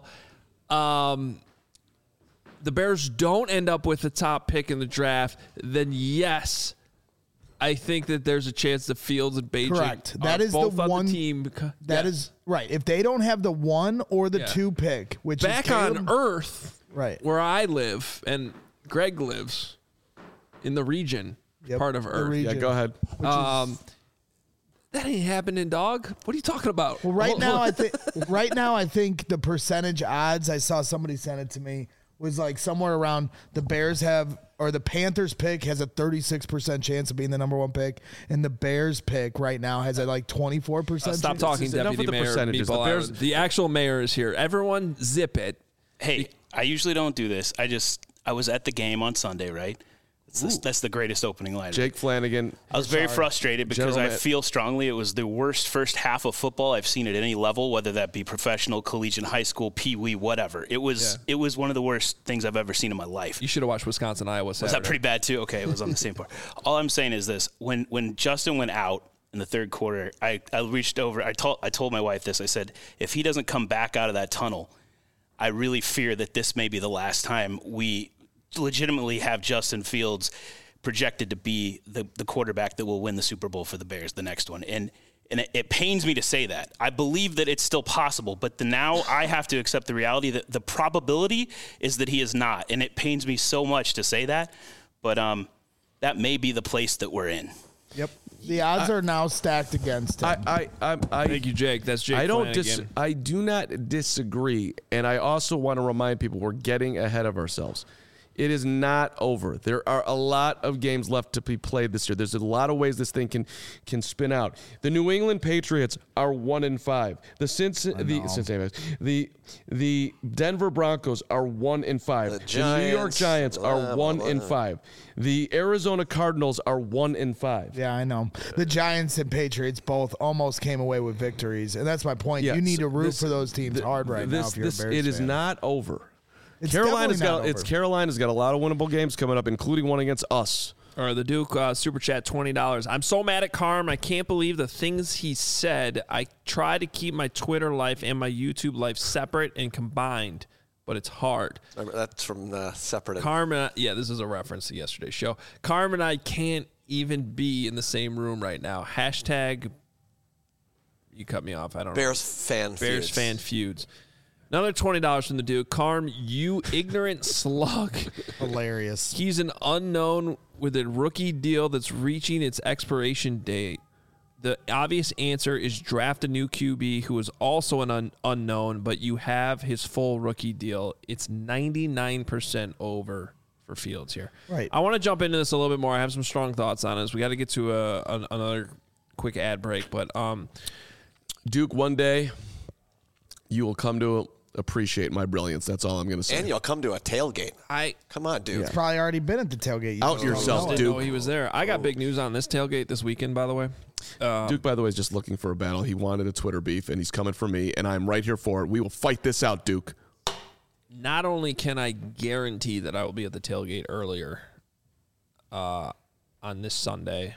The Bears don't end up with the top pick in the draft, then yes, I think that there's a chance that Fields and Bajan Correct. That are is both the on one the team. That is right. If they don't have the 1 or the 2 pick, which back is Caleb, on Earth, right, where I live and Greg lives in the region, part of the Earth. region. Yeah, go ahead. That ain't happening, dog. What are you talking about? Well, right now I think the percentage odds, I saw somebody send it to me, was like somewhere around the Bears have, or the Panthers pick has a 36% chance of being the number 1 pick, and the Bears pick right now has a like 24%. Stop talking, enough Deputy with the Mayor. percentages. People The Bears- the actual mayor is here. Everyone zip it. Hey, I usually don't do this. I was at the game on Sunday, right? That's the greatest opening line. Jake Flanagan. I was very frustrated because General I feel strongly it was the worst first half of football I've seen at any level, whether that be professional, collegiate, high school, pee-wee, whatever. It was one of the worst things I've ever seen in my life. You should have watched Wisconsin, Iowa Saturday. Was that pretty bad too? Okay, it was on the same part. All I'm saying is this: when Justin went out in the third quarter, I reached over. I told my wife this. I said, if he doesn't come back out of that tunnel, I really fear that this may be the last time we legitimately have Justin Fields projected to be the quarterback that will win the Super Bowl for the Bears, the next one. And And it pains me to say that. I believe that it's still possible, but now I have to accept the reality that the probability is that he is not. And it pains me so much to say that, but that may be the place that we're in. Yep. The odds are now stacked against him. Thank you, Jake. That's Jake. I do not disagree, and I also want to remind people we're getting ahead of ourselves. It is not over. There are a lot of games left to be played this year. There's a lot of ways this thing can spin out. The New England Patriots are 1-5. The Denver Broncos are 1-5. The New York Giants are 1-5. The Arizona Cardinals are 1-5. Yeah, I know. The Giants and Patriots both almost came away with victories, and that's my point. Yeah, you need to root for those teams hard right now if you're a Bears fan. It is not over. Carolina's got a lot of winnable games coming up, including one against us. All right, the Duke Super Chat, $20. I'm so mad at Carm. I can't believe the things he said. I try to keep my Twitter life and my YouTube life separate and combined, but it's hard. That's from separate. Carm, this is a reference to yesterday's show. Carm and I can't even be in the same room right now. Hashtag, you cut me off. I don't know. Bears fan feuds. Another $20 from the Duke. Carm, you ignorant slug. Hilarious. He's an unknown with a rookie deal that's reaching its expiration date. The obvious answer is draft a new QB who is also an unknown, but you have his full rookie deal. It's 99% over for Fields here. Right. I want to jump into this a little bit more. I have some strong thoughts on this. We got to get to another quick ad break, but Duke, one day you will come to appreciate my brilliance. That's all I'm going to say. And you'll come to a tailgate. Come on, Duke. He's probably already been at the tailgate. Out yourself, Duke. Oh, he was there. I got big news on this tailgate this weekend, by the way. Duke, by the way, is just looking for a battle. He wanted a Twitter beef, and he's coming for me, and I'm right here for it. We will fight this out, Duke. Not only can I guarantee that I will be at the tailgate earlier on this Sunday,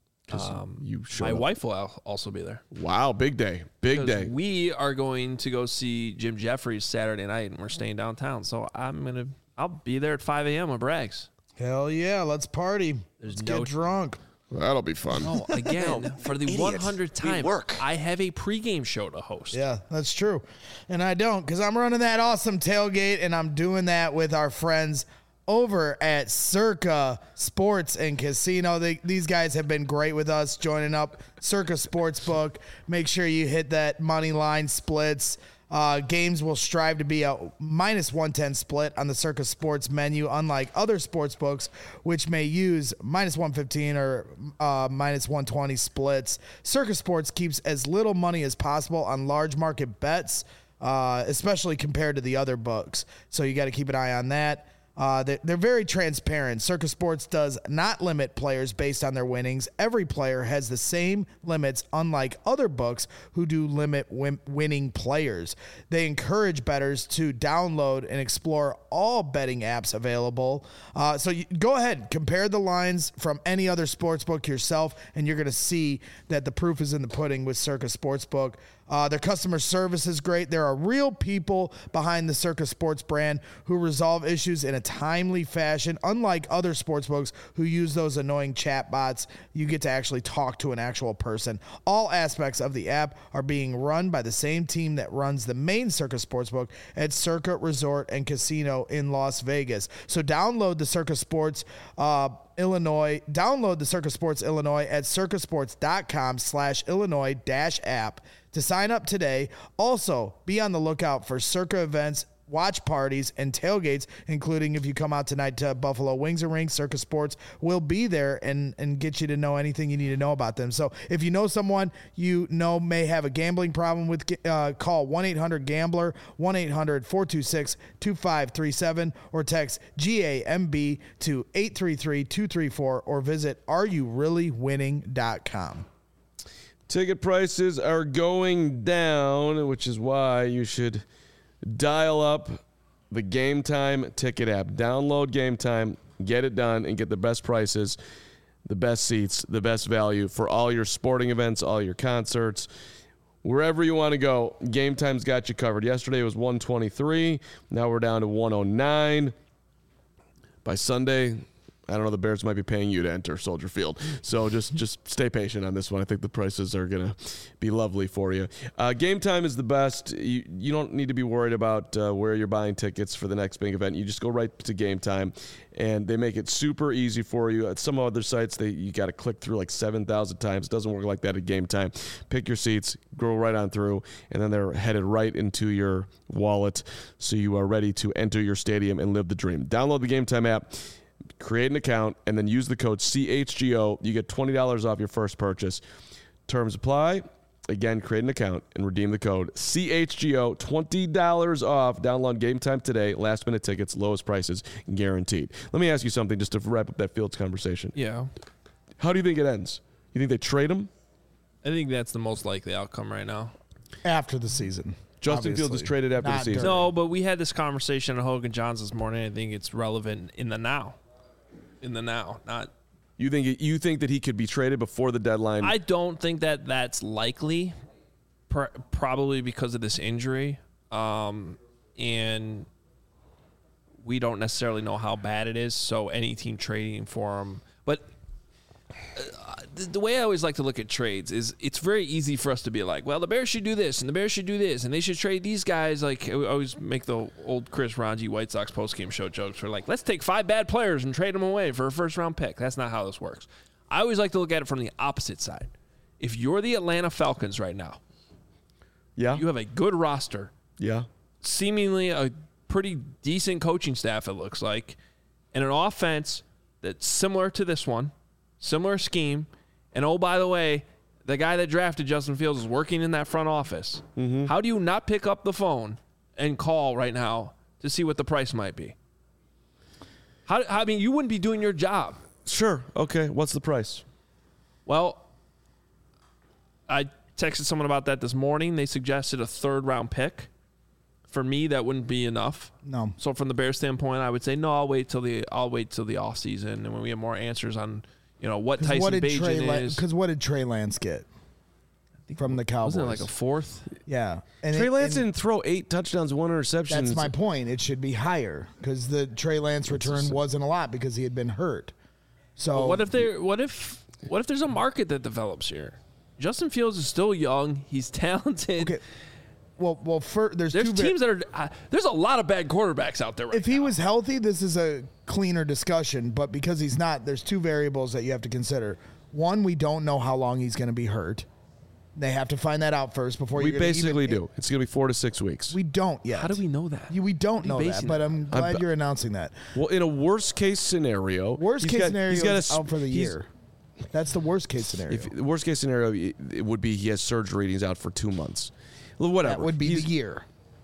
my wife will also be there. Wow, big day. Big day. We are going to go see Jim Jeffries Saturday night, and we're staying downtown. So I'll be there at 5 a.m. with Braggs. Hell yeah, let's party. Let's get drunk. That'll be fun. Oh, again, for the 100th time, I have a pregame show to host. Yeah, that's true. And I don't, because I'm running that awesome tailgate, and I'm doing that with our friends over at Circa Sports and Casino. These guys have been great with us, joining up Circa Sportsbook. Make sure you hit that money line splits. Games will strive to be a -110 split on the Circa Sports menu, unlike other sports books, which may use -115 or -120 splits. Circa Sports keeps as little money as possible on large market bets, especially compared to the other books. So you got to keep an eye on that. They're very transparent. Circa Sports does not limit players based on their winnings. Every player has the same limits, unlike other books who do limit winning players. They encourage bettors to download and explore all betting apps available. So you go ahead, compare the lines from any other sportsbook yourself, and you're going to see that the proof is in the pudding with Circa Sportsbook. Their customer service is great. There are real people behind the Circa Sports brand who resolve issues in a timely fashion. Unlike other sportsbooks who use those annoying chat bots, you get to actually talk to an actual person. All aspects of the app are being run by the same team that runs the main Circa Sportsbook at Circa Resort and Casino in Las Vegas. So download the Circa Sports Illinois. Download the Circa Sports Illinois at circasports.com/Illinois-app to sign up today. Also, be on the lookout for Circa events, watch parties, and tailgates, including if you come out tonight to Buffalo Wings and Rings. Circa Sports will be there and get you to know anything you need to know about them. So if you know someone you know may have a gambling problem with, call 1-800-GAMBLER, 1-800-426-2537, or text GAMB to 833-234, or visit areyourreallywinning.com. Ticket prices are going down, which is why you should dial up the Game Time ticket app. Download Game Time, get it done, and get the best prices, the best seats, the best value for all your sporting events, all your concerts, wherever you want to go. Game Time's got you covered. Yesterday it was $123. Now we're down to $109. By Sunday, I don't know, the Bears might be paying you to enter Soldier Field. So just stay patient on this one. I think the prices are going to be lovely for you. Game Time is the best. You don't need to be worried about where you're buying tickets for the next big event. You just go right to Game Time, and they make it super easy for you. At some other sites, you got to click through like 7,000 times. It doesn't work like that at Game Time. Pick your seats, go right on through, and then they're headed right into your wallet, so you are ready to enter your stadium and live the dream. Download the Game Time app, create an account, and then use the code CHGO. You get $20 off your first purchase. Terms apply. Again, create an account and redeem the code CHGO. $20 off. Download Game Time today. Last minute tickets, lowest prices guaranteed. Let me ask you something just to wrap up that Fields conversation. Yeah. How do you think it ends? You think they trade him? I think that's the most likely outcome right now. After the season. Justin Fields is traded after the season. No, but we had this conversation at Hogan Johns this morning. I think it's relevant in the now. In the now, not. You think that he could be traded before the deadline? I don't think that that's likely, probably because of this injury, and we don't necessarily know how bad it is. So any team trading for him, but the way I always like to look at trades is it's very easy for us to be like, well, the Bears should do this, and the Bears should do this, and they should trade these guys. Like, I always make the old Chris Ranji White Sox postgame show jokes for like, let's take 5 bad players and trade them away for a first-round pick. That's not how this works. I always like to look at it from the opposite side. If you're the Atlanta Falcons right now, yeah, you have a good roster, yeah, seemingly a pretty decent coaching staff, it looks like, and an offense that's similar to this one, similar scheme. And, oh, by the way, the guy that drafted Justin Fields is working in that front office. Mm-hmm. How do you not pick up the phone and call right now to see what the price might be? I mean, you wouldn't be doing your job. Sure. Okay. What's the price? Well, I texted someone about that this morning. They suggested a 3rd-round pick. For me, that wouldn't be enough. No. So from the Bears standpoint, I would say, no, I'll wait till the offseason and when we have more answers on – what Tyson Bagent is. Because what did Trey Lance get from the Cowboys? Wasn't it like a 4th? Yeah. And Trey Lance didn't throw 8 touchdowns, 1 interception. That's my point. It should be higher because the Trey Lance return wasn't a lot because he had been hurt. So what if there's a market that develops here? Justin Fields is still young. He's talented. Okay. Well, there's teams that are there's a lot of bad quarterbacks out there right now. If he was healthy, this is a cleaner discussion, but because he's not, there's 2 variables that you have to consider. One, we don't know how long he's going to be hurt. They have to find that out first before we basically do. It's going to be 4 to 6 weeks. We don't yet. How do we know that? We don't know that, but I'm glad you're announcing that. Well, in a worst case scenario, he's out for the year. That's the worst case scenario. The worst case scenario, it would be he has surgery and he's out for 2 months. Well, whatever. That would be the year.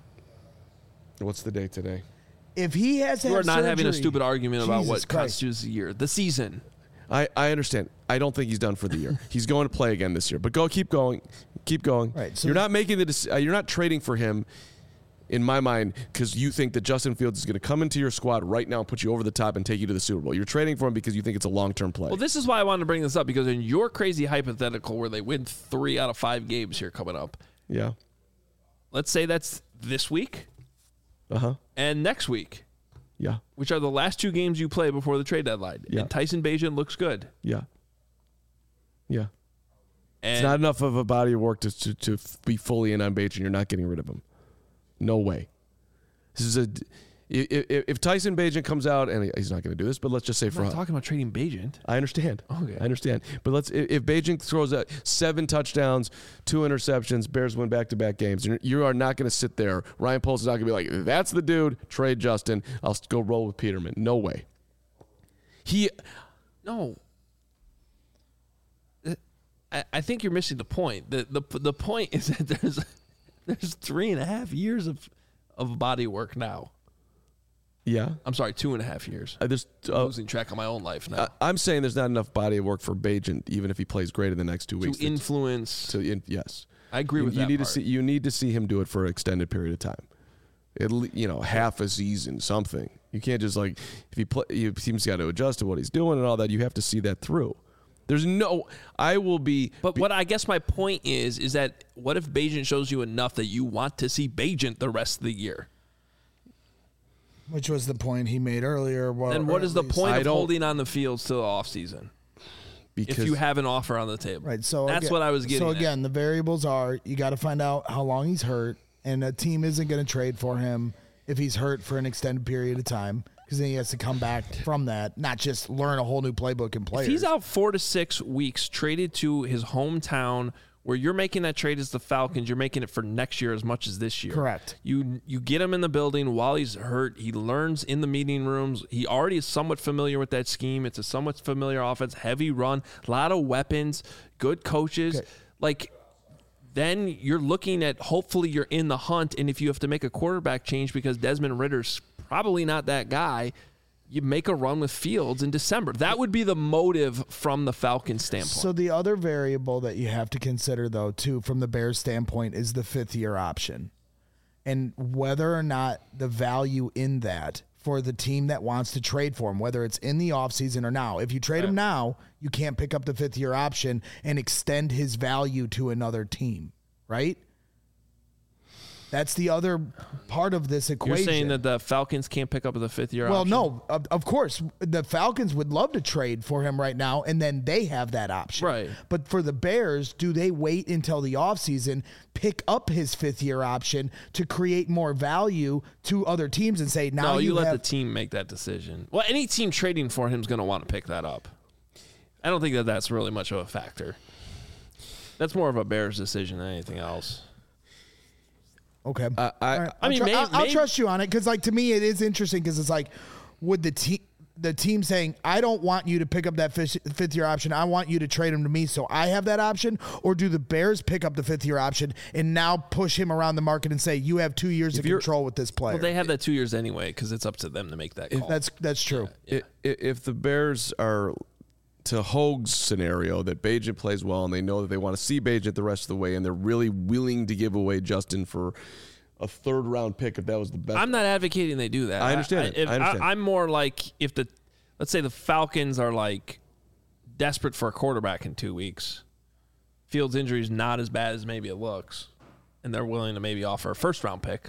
What's the date today? If he has to have We're not surgery, having a stupid argument about what Christ. constitutes the year. The season. I understand. I don't think he's done for the year. He's going to play again this year. But keep going. Right. So you're not making you're not trading for him, in my mind, because you think that Justin Fields is going to come into your squad right now and put you over the top and take you to the Super Bowl. You're trading for him because you think it's a long-term play. Well, this is why I wanted to bring this up, because in your crazy hypothetical where they win 3 out of 5 games here coming up. Yeah. Let's say that's this week. Uh-huh. And next week. Yeah. Which are the last 2 games you play before the trade deadline. Yeah. And Tyson Bagent looks good. Yeah. Yeah. And it's not enough of a body of work to be fully in on Bagent. You're not getting rid of him. No way. This is if Tyson Bagent comes out, and he's not going to do this, but let's just say I'm not talking about trading Bagent. I understand. Okay. I understand. But if Bagent throws out 7 touchdowns, 2 interceptions, Bears win back-to-back games, you are not going to sit there. Ryan Poles is not going to be like, that's the dude, trade Justin. I'll go roll with Peterman. No way. No. I think you're missing the point. The point is that there's 3.5 years of body work now. Yeah. I'm sorry, 2.5 years. I'm losing track of my own life now. I'm saying there's not enough body of work for Bagent, even if he plays great in the next 2 weeks. To influence. Yes. I agree with that part. You need to see him do it for an extended period of time. Half a season, something. You can't just if team's got to adjust to what he's doing and all that. You have to see that through. But what I guess my point is that what if Bagent shows you enough that you want to see Bagent the rest of the year? Which was the point he made earlier. And what is the point of holding on the fields to the offseason? Because if you have an offer on the table. Right. So that's what I was getting at. So again, the variables are you got to find out how long he's hurt, and a team isn't going to trade for him if he's hurt for an extended period of time, because then he has to come back from that, not just learn a whole new playbook and players. If he's out 4 to 6 weeks, traded to his hometown, where you're making that trade as the Falcons, you're making it for next year as much as this year. Correct. You get him in the building while he's hurt. He learns in the meeting rooms. He already is somewhat familiar with that scheme. It's a somewhat familiar offense, heavy run, a lot of weapons, good coaches. Okay. Then you're looking at hopefully you're in the hunt, and if you have to make a quarterback change because Desmond Ritter's probably not that guy, you make a run with Fields in December. That would be the motive from the Falcons standpoint. So the other variable that you have to consider, though, too, from the Bears standpoint is the 5th-year option, and whether or not the value in that for the team that wants to trade for him, whether it's in the offseason or now. If you trade him now, you can't pick up the 5th-year option and extend his value to another team, right? That's the other part of this equation. You're saying that the Falcons can't pick up the 5th-year option? Well, no. Of course, the Falcons would love to trade for him right now, and then they have that option. Right. But for the Bears, do they wait until the offseason, pick up his 5th-year option to create more value to other teams and say, now you let the team make that decision. Well, any team trading for him is going to want to pick that up. I don't think that that's really much of a factor. That's more of a Bears decision than anything else. Okay. I'll trust you on it because, to me, it is interesting because it's like, would the team saying, I don't want you to pick up that 5th-year option, I want you to trade him to me so I have that option, or do the Bears pick up the 5th-year option and now push him around the market and say, you have 2 years of control with this player? Well, they have that 2 years anyway because it's up to them to make that call. That's true. Yeah. If the Bears are to Hogue's scenario that Bagent plays well and they know that they want to see Bagent the rest of the way and they're really willing to give away Justin for a 3rd-round pick if that was the best. I'm not advocating they do that. I understand. I'm more like if let's say the Falcons are desperate for a quarterback in 2 weeks. Fields' injury is not as bad as maybe it looks, and they're willing to maybe offer a 1st-round pick.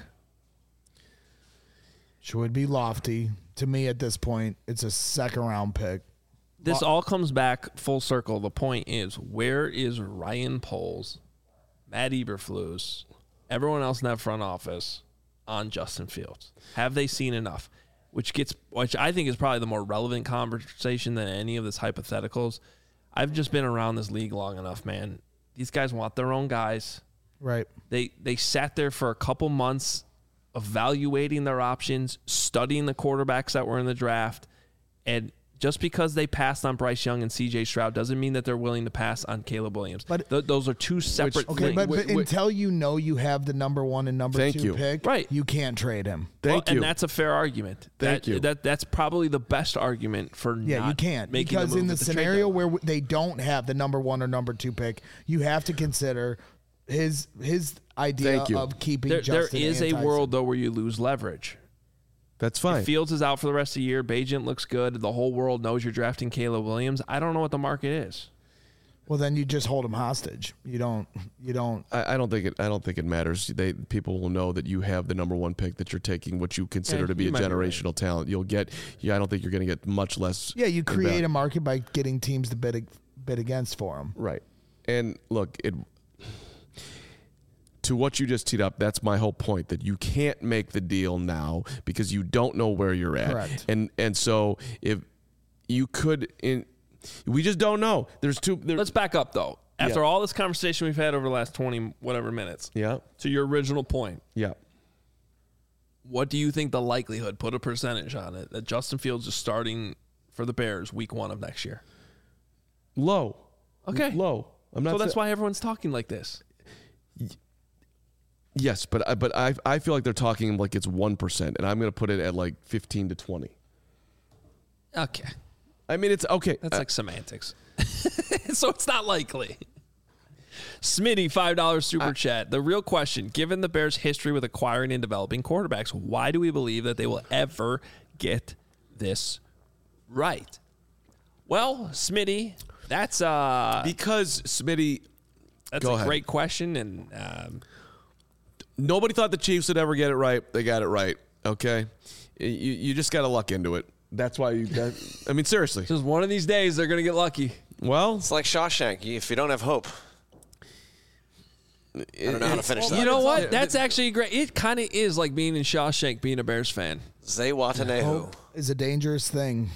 Which would be lofty. To me at this point, it's a 2nd-round pick. This all comes back full circle. The point is, where is Ryan Poles, Matt Eberflus, everyone else in that front office on Justin Fields? Have they seen enough? Which I think is probably the more relevant conversation than any of this hypotheticals. I've just been around this league long enough, man. These guys want their own guys. Right. They sat there for a couple months evaluating their options, studying the quarterbacks that were in the draft, and just because they passed on Bryce Young and C.J. Stroud doesn't mean that they're willing to pass on Caleb Williams. But those are two separate things. But until you know you have the number 1 and number 2 pick, right, you can't trade him. Thank you. And that's a fair argument. Thank you. That's probably the best argument for you can't. Because in the scenario where they don't have the number 1 or number 2 pick, you have to consider his idea of keeping Justin. There is a world, though, where you lose leverage. That's fine. If Fields is out for the rest of the year, Bagent looks good, the whole world knows you're drafting Caleb Williams. I don't know what the market is. Well, then you just hold him hostage. You don't. I don't think it matters. People will know that you have the number 1 pick, that you're taking what you consider to be a generational talent. You'll get. I don't think you're going to get much less. Yeah, you create a market by getting teams to bid against for him. Right. And look, to what you just teed up, that's my whole point, that you can't make the deal now because you don't know where you're at. Correct. And so if you could, we just don't know. Let's back up, though. After all this conversation we've had over the last 20 whatever minutes, to your original point, what do you think the likelihood, put a percentage on it, that Justin Fields is starting for the Bears week 1 of next year? Low. Okay. Low. So that's why everyone's talking like this. Yes, but I feel like they're talking like it's 1%, and I'm going to put it at 15 to 20. Okay. I mean, it's okay. That's like semantics. So it's not likely. Smitty, $5 super chat. The real question, given the Bears' history with acquiring and developing quarterbacks, why do we believe that they will ever get this right? Well, Smitty, that's because Smitty. That's a great question, and nobody thought the Chiefs would ever get it right. They got it right. Okay, you just got to luck into it. That's why I mean, seriously. Just one of these days, they're going to get lucky. Well, It's like Shawshank. If you don't have hope, I don't know how to finish that. You know what? That's actually great. It kind of is like being in Shawshank, being a Bears fan. Zay Watanehu. Hope is a dangerous thing.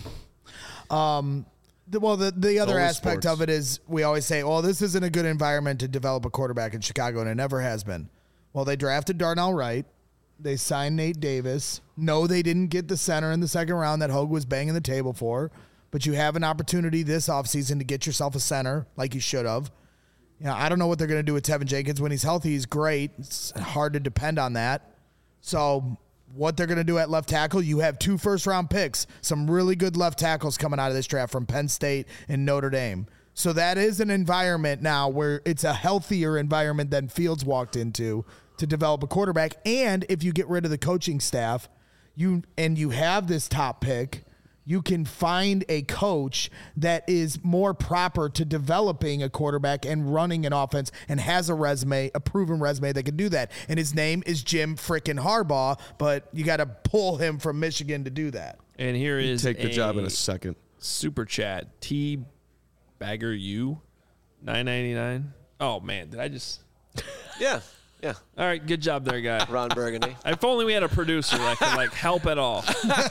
The other aspect of it is we always say, well, this isn't a good environment to develop a quarterback in Chicago, and it never has been. Well, they drafted Darnell Wright. They signed Nate Davis. No, they didn't get the center in the second round that Hogue was banging the table for, but you have an opportunity this offseason to get yourself a center like you should have. I don't know what they're going to do with Tevin Jenkins. When he's healthy, he's great. It's hard to depend on that. So what they're going to do at left tackle, you have 2 first-round picks, some really good left tackles coming out of this draft from Penn State and Notre Dame. So that is an environment now where it's a healthier environment than Fields walked into to develop a quarterback. And if you get rid of the coaching staff, you have this top pick, you can find a coach that is more proper to developing a quarterback and running an offense and has a proven resume that can do that. And his name is Jim frickin' Harbaugh, but you got to pull him from Michigan to do that. And here is take the job in a second. Super chat. T Bagger U $9.99. Oh man, did I just? Yeah. Yeah. All right, good job there, guy. Ron Burgundy. If only we had a producer that could help at all.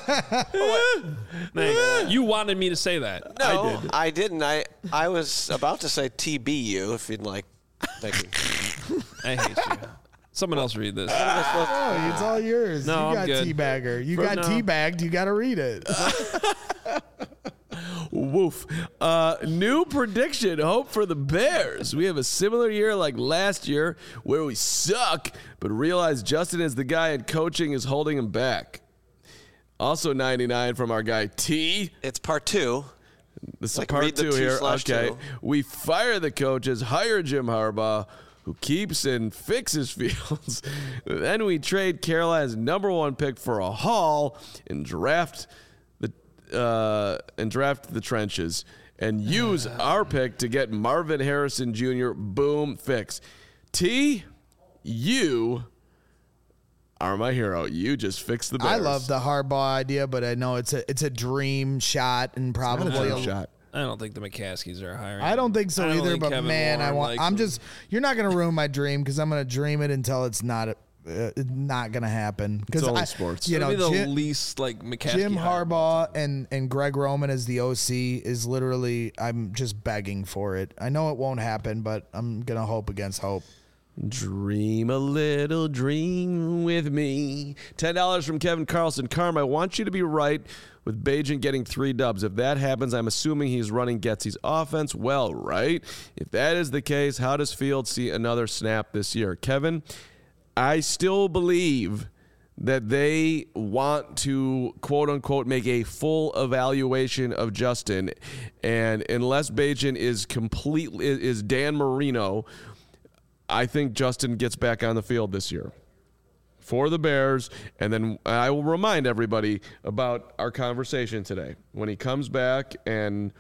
You wanted me to say that. No, I didn't. I was about to say TBU if you'd like. Thank you. I hate you. Someone else read this. Oh, it's all yours. No, you I'm got good. teabagger. You got teabagged. You got to read it. Woof. New prediction. Hope for the Bears. We have a similar year like last year where we suck, but realize Justin is the guy and coaching is holding him back. Also 99 from our guy T. It's part 2. This is Like, part read the 2 2 here. slash Okay. 2. We fire the coaches, hire Jim Harbaugh, who keeps and fixes Fields. Then we trade Carolina's #1 pick for a haul and draft the trenches and use our pick to get Marvin Harrison Jr. Boom, fix. T, you are my hero. You just fixed the Bears. I love the Harbaugh idea, but I know it's a dream shot and probably a shot. I don't think the McCaskies are hiring. I don't think so I don't either. think But Kevin man, Warren likes him. You're not gonna ruin my dream because I'm gonna dream it until it's not gonna happen. Because only sports. You know, It'll be the Jim, least McCaskey. Jim hire. Harbaugh and Greg Roman as the OC is literally. I'm just begging for it. I know it won't happen, but I'm gonna hope against hope. Dream a little dream with me. $10 from Kevin Carlson. Carm, I want you to be right with Bagent getting 3 dubs. If that happens, I'm assuming he's running Getsy's offense well, right? If that is the case, how does Fields see another snap this year? Kevin, I still believe that they want to, quote unquote, make a full evaluation of Justin. And unless Bagent is Dan Marino, I think Justin gets back on the field this year for the Bears. And then I will remind everybody about our conversation today. When he comes back and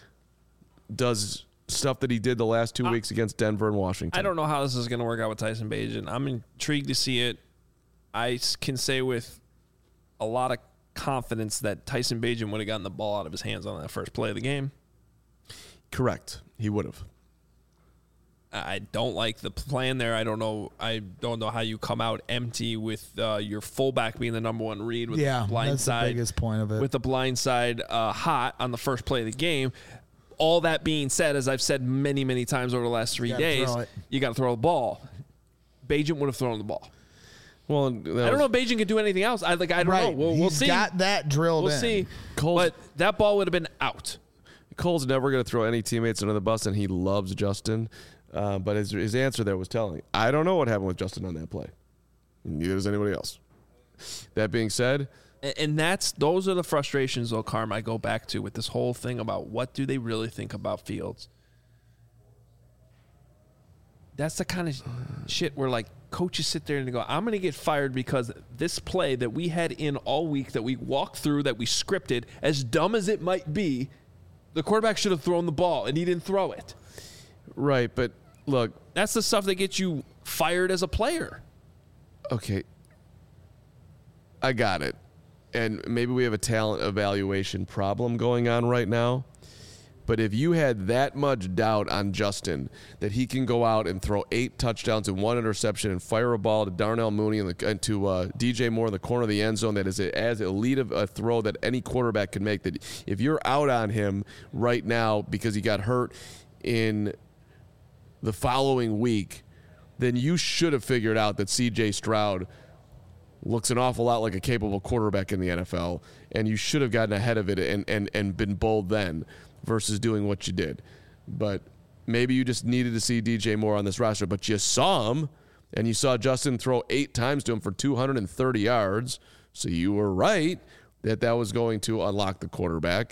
does stuff that he did the last 2 weeks against Denver and Washington. I don't know how this is going to work out with Tyson Bagent. I'm intrigued to see it. I can say with a lot of confidence that Tyson Bagent would have gotten the ball out of his hands on that first play of the game. Correct. He would have. I don't like the plan there. I don't know how you come out empty with your fullback being the #1 read with the blind that's side. the biggest point of it. With the blind side hot on the first play of the game. All that being said, as I've said many, many times over the last 3 days, you got to throw the ball. Bagent would have thrown the ball. Well, I don't know if Bagent could do anything else. I don't know. We'll see. He's got that drilled in. We'll see. But that ball would have been out. Cole's never going to throw any teammates under the bus, and he loves Justin. But his answer there was telling. I don't know what happened with Justin on that play. Neither does anybody else. That being said, and those are the frustrations, though, Carm, I go back to with this whole thing about what do they really think about Fields. That's the kind of shit where coaches sit there and they go, I'm going to get fired because this play that we had in all week, that we walked through, that we scripted, as dumb as it might be, the quarterback should have thrown the ball and he didn't throw it. Right, but look. That's the stuff that gets you fired as a player. Okay. I got it. And maybe we have a talent evaluation problem going on right now. But if you had that much doubt on Justin that he can go out and throw 8 touchdowns and 1 interception and fire a ball to Darnell Mooney and to DJ Moore in the corner of the end zone that is as elite of a throw that any quarterback can make, that if you're out on him right now because he got hurt in the following week, then you should have figured out that C.J. Stroud looks an awful lot like a capable quarterback in the NFL, and you should have gotten ahead of it and been bold then versus doing what you did. But maybe you just needed to see DJ Moore on this roster, but you saw him, and you saw Justin throw 8 times to him for 230 yards, so you were right that was going to unlock the quarterback.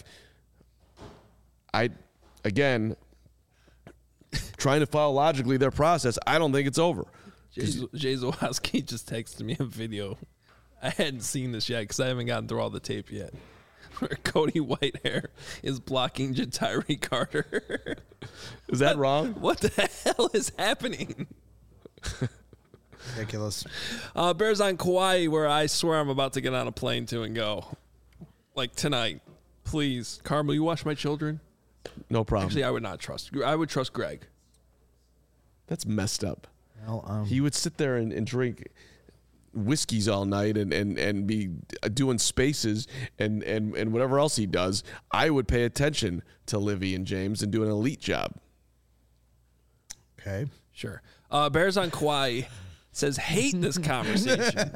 Again, trying to follow logically their process, I don't think it's over. Jay Zawoski just texted me a video. I hadn't seen this yet because I haven't gotten through all the tape yet. Where Cody Whitehair is blocking Ja'Tyre Carter. Is that wrong? What the hell is happening? Ridiculous. Bears on Kauai, where I swear I'm about to get on a plane to and go. Like tonight. Please. Carmel, you watch my children? No problem. Actually, I would not trust. I would trust Greg. That's messed up. Well, he would sit there and drink whiskeys all night and be doing spaces and whatever else he does. I would pay attention to Livy and James and do an elite job. Okay. Sure. Bears on Kauai says hate this conversation.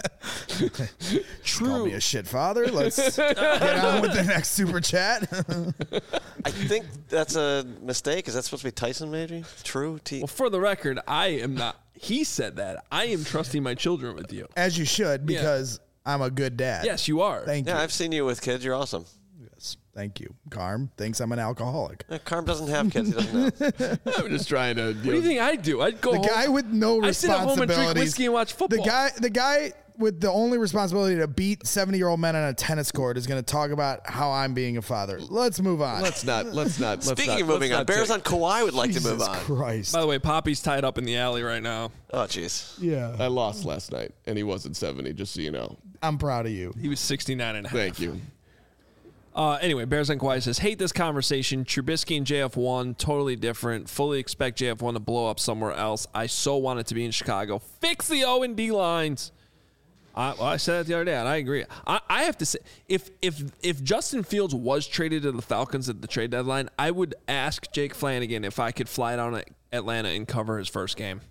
True. Call me a shit father. Let's get on with the next super chat. I think that's a mistake. Is that supposed to be Tyson maybe? True? Well, for the record, I am not. He said that. I am trusting my children with you. As you should, because I'm a good dad. Yes, you are. Thank you. Yeah, I've seen you with kids. You're awesome. Yes. Thank you. Carm thinks I'm an alcoholic. Carm doesn't have kids. He doesn't know. I'm just trying to. What do you think I'd do? I'd go The home. guy with no I sit at home and drink responsibilities. whiskey and watch football. The guy with the only responsibility to beat 70-year-old men on a tennis court is going to talk about how I'm being a father. Let's move on. Let's not. Speaking of moving on, Bears on Kauai would like to move Jesus on. Christ. By the way, Poppy's tied up in the alley right now. Oh, jeez. Yeah. I lost last night, and he wasn't 70, just so you know. I'm proud of you. He was 69 and a half. Thank you. Anyway, Bears on Kauai says, hate this conversation. Trubisky and JF1, totally different. Fully expect JF1 to blow up somewhere else. I so want it to be in Chicago. Fix the O&D lines. I said that the other day, and I agree. I have to say, if Justin Fields was traded to the Falcons at the trade deadline, I would ask Jake Flanagan if I could fly down to Atlanta and cover his first game.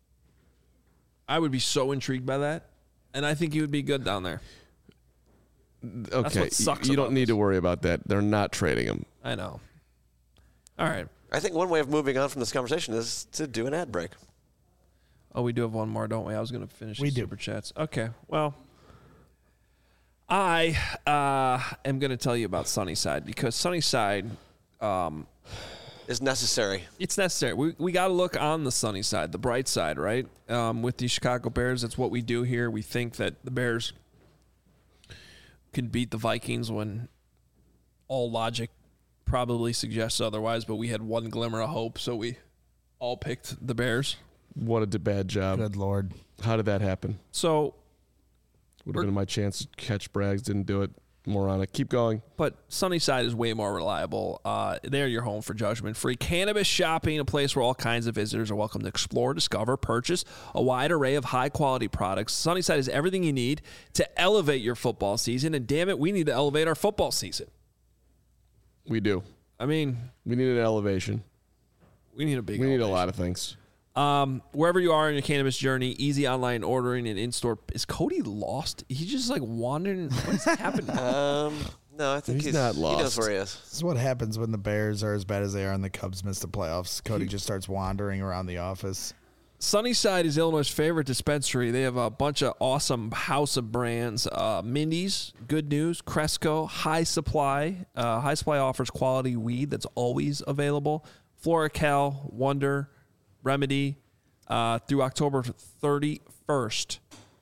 I would be so intrigued by that, and I think he would be good down there. Okay, what sucks you about don't need to worry about that. They're not trading him. I know. All right. I think one way of moving on from this conversation is to do an ad break. Oh, we do have one more, don't we? I was going to finish the do. super chats. Okay. Well, I am going to tell you about Sunnyside because Sunnyside Is necessary. it's necessary. We got to look on the sunny side, the bright side, right? With the Chicago Bears, that's what we do here. We think that the Bears can beat the Vikings when all logic probably suggests otherwise, but we had one glimmer of hope, so we all picked the Bears. What a bad job. Good Lord. How did that happen? So, Would have been my chance to catch Braggs. Didn't do it. More on it. Keep going. but Sunnyside is way more reliable. They're your home for judgment-free cannabis shopping, a place where all kinds of visitors are welcome to explore, discover, purchase a wide array of high-quality products. Sunnyside is everything you need to elevate your football season, and damn it, we need to elevate our football season. We do. I mean, We need an elevation. we need a big We need a elevation. lot of things. Wherever you are in your cannabis journey, easy online ordering and in-store. Is Cody lost? He's just like wandering. What's happening? No, I think He's not He knows lost. where he is. This is what happens when the Bears are as bad as they are and the Cubs miss the playoffs. Cody just starts wandering around the office. Sunnyside is Illinois' favorite dispensary. They have a bunch of awesome house of brands. Mindy's, Good News, Cresco, High Supply. High Supply offers quality weed that's always available. FloraCal, Wonder, Remedy. Through October 31st,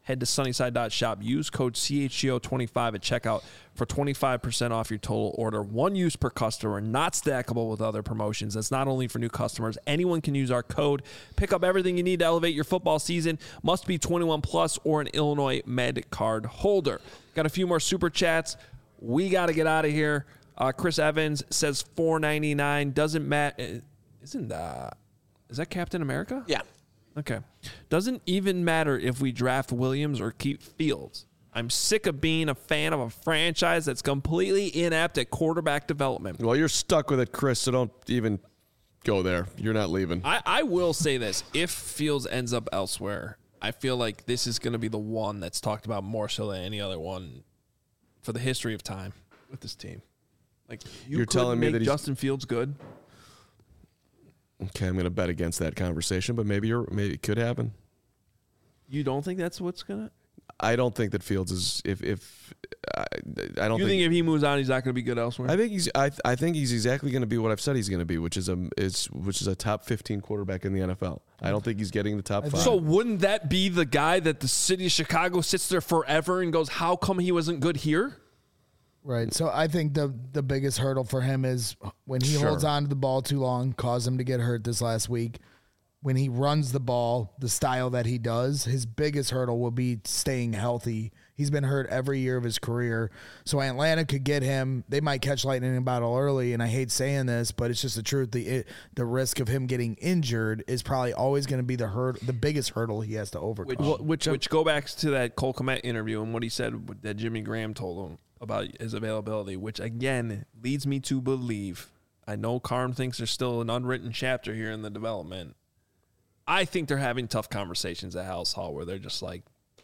Head to Sunnyside.shop. Use code CHGO25 at checkout for 25% off your total order. One use per customer, not stackable with other promotions. That's not only for new customers. Anyone can use our code. Pick up everything you need to elevate your football season. Must be 21 plus or an Illinois Med card holder. Got a few more super chats. We got to get out of here. Chris Evans says $4.99. Doesn't matter. Is that Captain America? Yeah. Okay. Doesn't even matter if we draft Williams or keep Fields. I'm sick of being a fan of a franchise that's completely inept at quarterback development. Well, you're stuck with it, Chris, so don't even go there. You're not leaving. I will say this. If Fields ends up elsewhere, I feel like this is going to be the one that's talked about more so than any other one for the history of time with this team. Like, you're telling me that Justin Fields good? Okay, I'm going to bet against that conversation, but maybe it could happen. You don't think that's what's gonna? I don't think that Fields is. I don't. You think if he moves on, he's not going to be good elsewhere? I think he's. I think he's exactly going to be what I've said he's going to be, which is a top 15 quarterback in the NFL. I don't think he's getting the top 5. So wouldn't that be the guy that the city of Chicago sits there forever and goes, "How come he wasn't good here?" Right. So I think the biggest hurdle for him is when he holds on to the ball too long, caused him to get hurt this last week. When he runs the ball, the style that he does, his biggest hurdle will be staying healthy. He's been hurt every year of his career. So Atlanta could get him. They might catch lightning in a bottle early, and I hate saying this, but it's just the truth. The risk of him getting injured is probably always going to be the biggest hurdle he has to overcome. Which go back to that Cole Kmet interview and what he said that Jimmy Graham told him about his availability, which again leads me to believe, I know Carm thinks there's still an unwritten chapter here in the development. I think they're having tough conversations at House Hall where they're just like,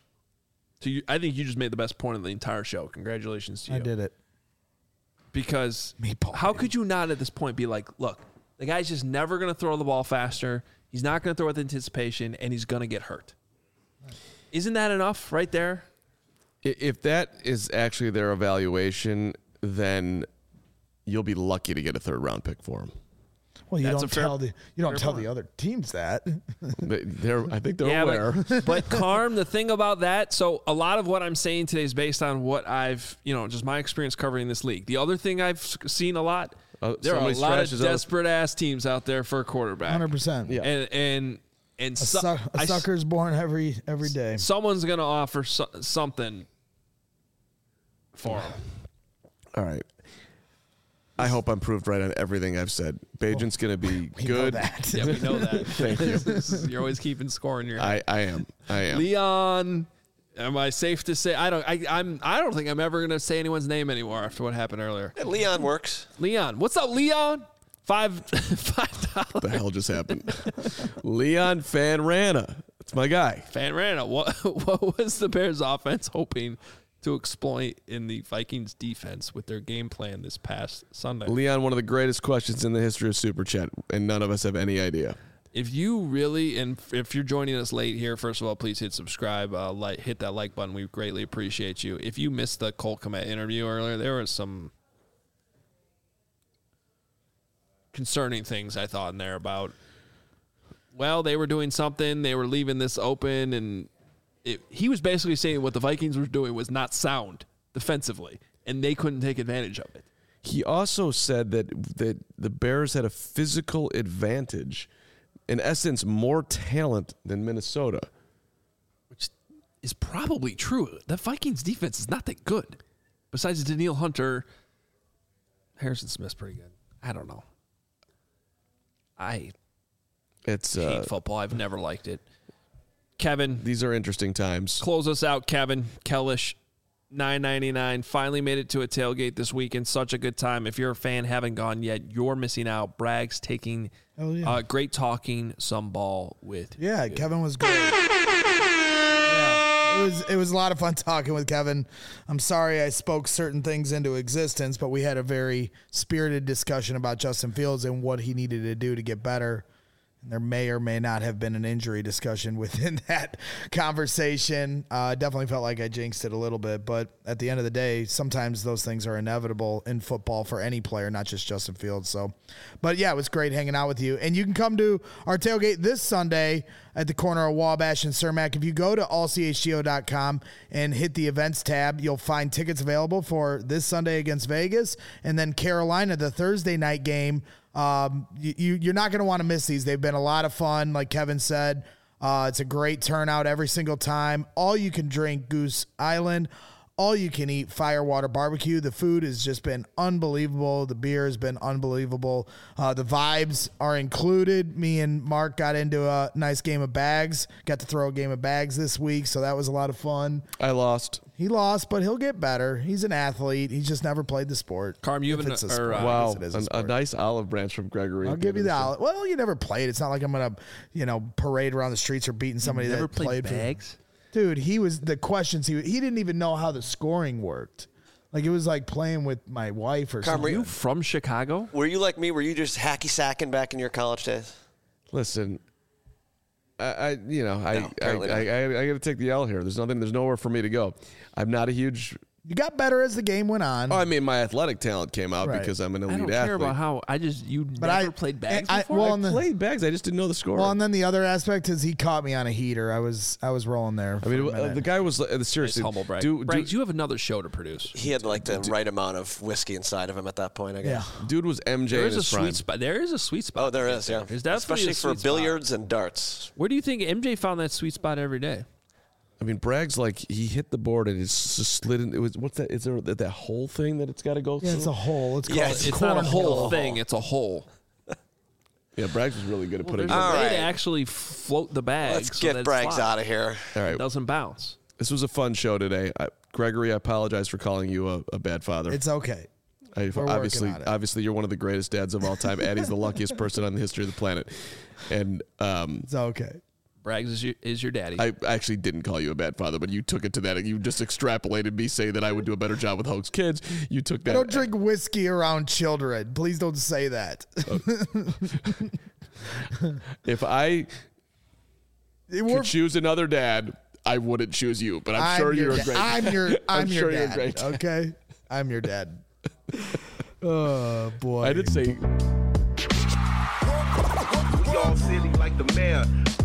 I think you just made the best point of the entire show. Congratulations to you. I did it. Because how could you not at this point be like, look, the guy's just never going to throw the ball faster. He's not going to throw with anticipation, and he's going to get hurt. Isn't that enough right there? If that is actually their evaluation, then you'll be lucky to get a 3rd-round pick for him. Well, you don't tell the other teams that. I think they're aware. But Carm, the thing about that, so a lot of what I'm saying today is based on what I've, just my experience covering this league. The other thing I've seen a lot, there are a lot of desperate ass teams out there for a quarterback. 100%. Yeah. And a sucker's born every day. Someone's going to offer something for him. All right. I hope I'm proved right on everything I've said. Bajan's going to be good. Know that. Yeah, we know that. Thank you. You're always keeping score in your head. I am. Leon, am I safe to say? I don't think I'm ever going to say anyone's name anymore after what happened earlier. Yeah, Leon works. Leon, what's up, Leon? $5. What the hell just happened? Leon Fanrana. That's my guy. Fanrana. What was the Bears offense hoping to exploit in the Vikings defense with their game plan this past Sunday? Leon, one of the greatest questions in the history of Super Chat, and none of us have any idea. If you really, and if you're joining us late here, first of all, please hit subscribe, hit that like button. We greatly appreciate you. If you missed the Cole Kmet interview earlier, there was some concerning things I thought in there about, well, they were doing something, they were leaving this open, and he was basically saying what the Vikings were doing was not sound defensively, and they couldn't take advantage of it. He also said that the Bears had a physical advantage, in essence, more talent than Minnesota. Which is probably true. The Vikings defense is not that good. Besides Danielle Hunter, Harrison Smith's pretty good. I don't know. I hate football. I've never liked it. Kevin. These are interesting times. Close us out, Kevin. Kellish, $9.99. Finally made it to a tailgate this weekend. Such a good time. If you're a fan, haven't gone yet, you're missing out. Bragg's taking great talking some ball with you. Kevin was great. It was a lot of fun talking with Kevin. I'm sorry I spoke certain things into existence, but we had a very spirited discussion about Justin Fields and what he needed to do to get better. There may or may not have been an injury discussion within that conversation. Definitely felt like I jinxed it a little bit, but at the end of the day, sometimes those things are inevitable in football for any player, not just Justin Fields. But yeah, it was great hanging out with you. And you can come to our tailgate this Sunday at the corner of Wabash and Cermak. If you go to allchgo.com and hit the events tab, you'll find tickets available for this Sunday against Vegas, and then Carolina, the Thursday night game. You're not going to want to miss these. They've been a lot of fun, like Kevin said. It's a great turnout every single time. All you can drink Goose Island. All you can eat Firewater Barbecue. The food has just been unbelievable. The beer has been unbelievable. The vibes are included. Me and Mark got into a nice game of bags. Got to throw a game of bags this week, so that was a lot of fun. I lost. He lost, but he'll get better. He's an athlete. He's just never played the sport. Carm, you have wow, a nice olive branch from Gregory. I'll give you the olive. Well, you never played. It's not like I'm going to, parade around the streets or beating somebody that played bags. Dude, the questions, he didn't even know how the scoring worked. Like, it was like playing with my wife or something. Are you from Chicago? Were you like me? Were you just hacky sacking back in your college days? Listen, I got to take the L here. There's nowhere for me to go. I'm not a huge. You got better as the game went on. Oh, I mean, my athletic talent came out because I'm an elite athlete. I don't care about how you never played bags before. I played bags. I just didn't know the score. Well, and then the other aspect is he caught me on a heater. I was rolling there. I mean, the guy was seriously humble brag. Braggs, you have another show to produce. He had like the right amount of whiskey inside of him at that point, I guess. Yeah. Dude was MJ in his prime. There is a sweet spot. Oh, there is, yeah. There's definitely especially for billiards and darts. Where do you think MJ found that sweet spot every day? I mean, Bragg's like he hit the board and it's just slid in. It was what's that? Is there that whole thing that it's got to go through? Yeah, it's a hole. It's not a whole thing. It's a hole. Yeah, Braggs was really good at putting. There's a way to actually float the bag. Let's get Braggs out of here. All right, it doesn't bounce. This was a fun show today, Gregory. I apologize for calling you a bad father. It's okay. Obviously, you're one of the greatest dads of all time. Addie's the luckiest person on the history of the planet, and it's okay. Braggs is your daddy. I actually didn't call you a bad father, but you took it to that. You just extrapolated me saying that I would do a better job with Hoag's kids. You took that. I don't drink whiskey around children. Please don't say that. If I could choose another dad, I wouldn't choose you. But I'm sure you're a great. I'm your sure you're you're great. Okay, I'm your dad. Oh boy! I did say. We all silly like the mayor.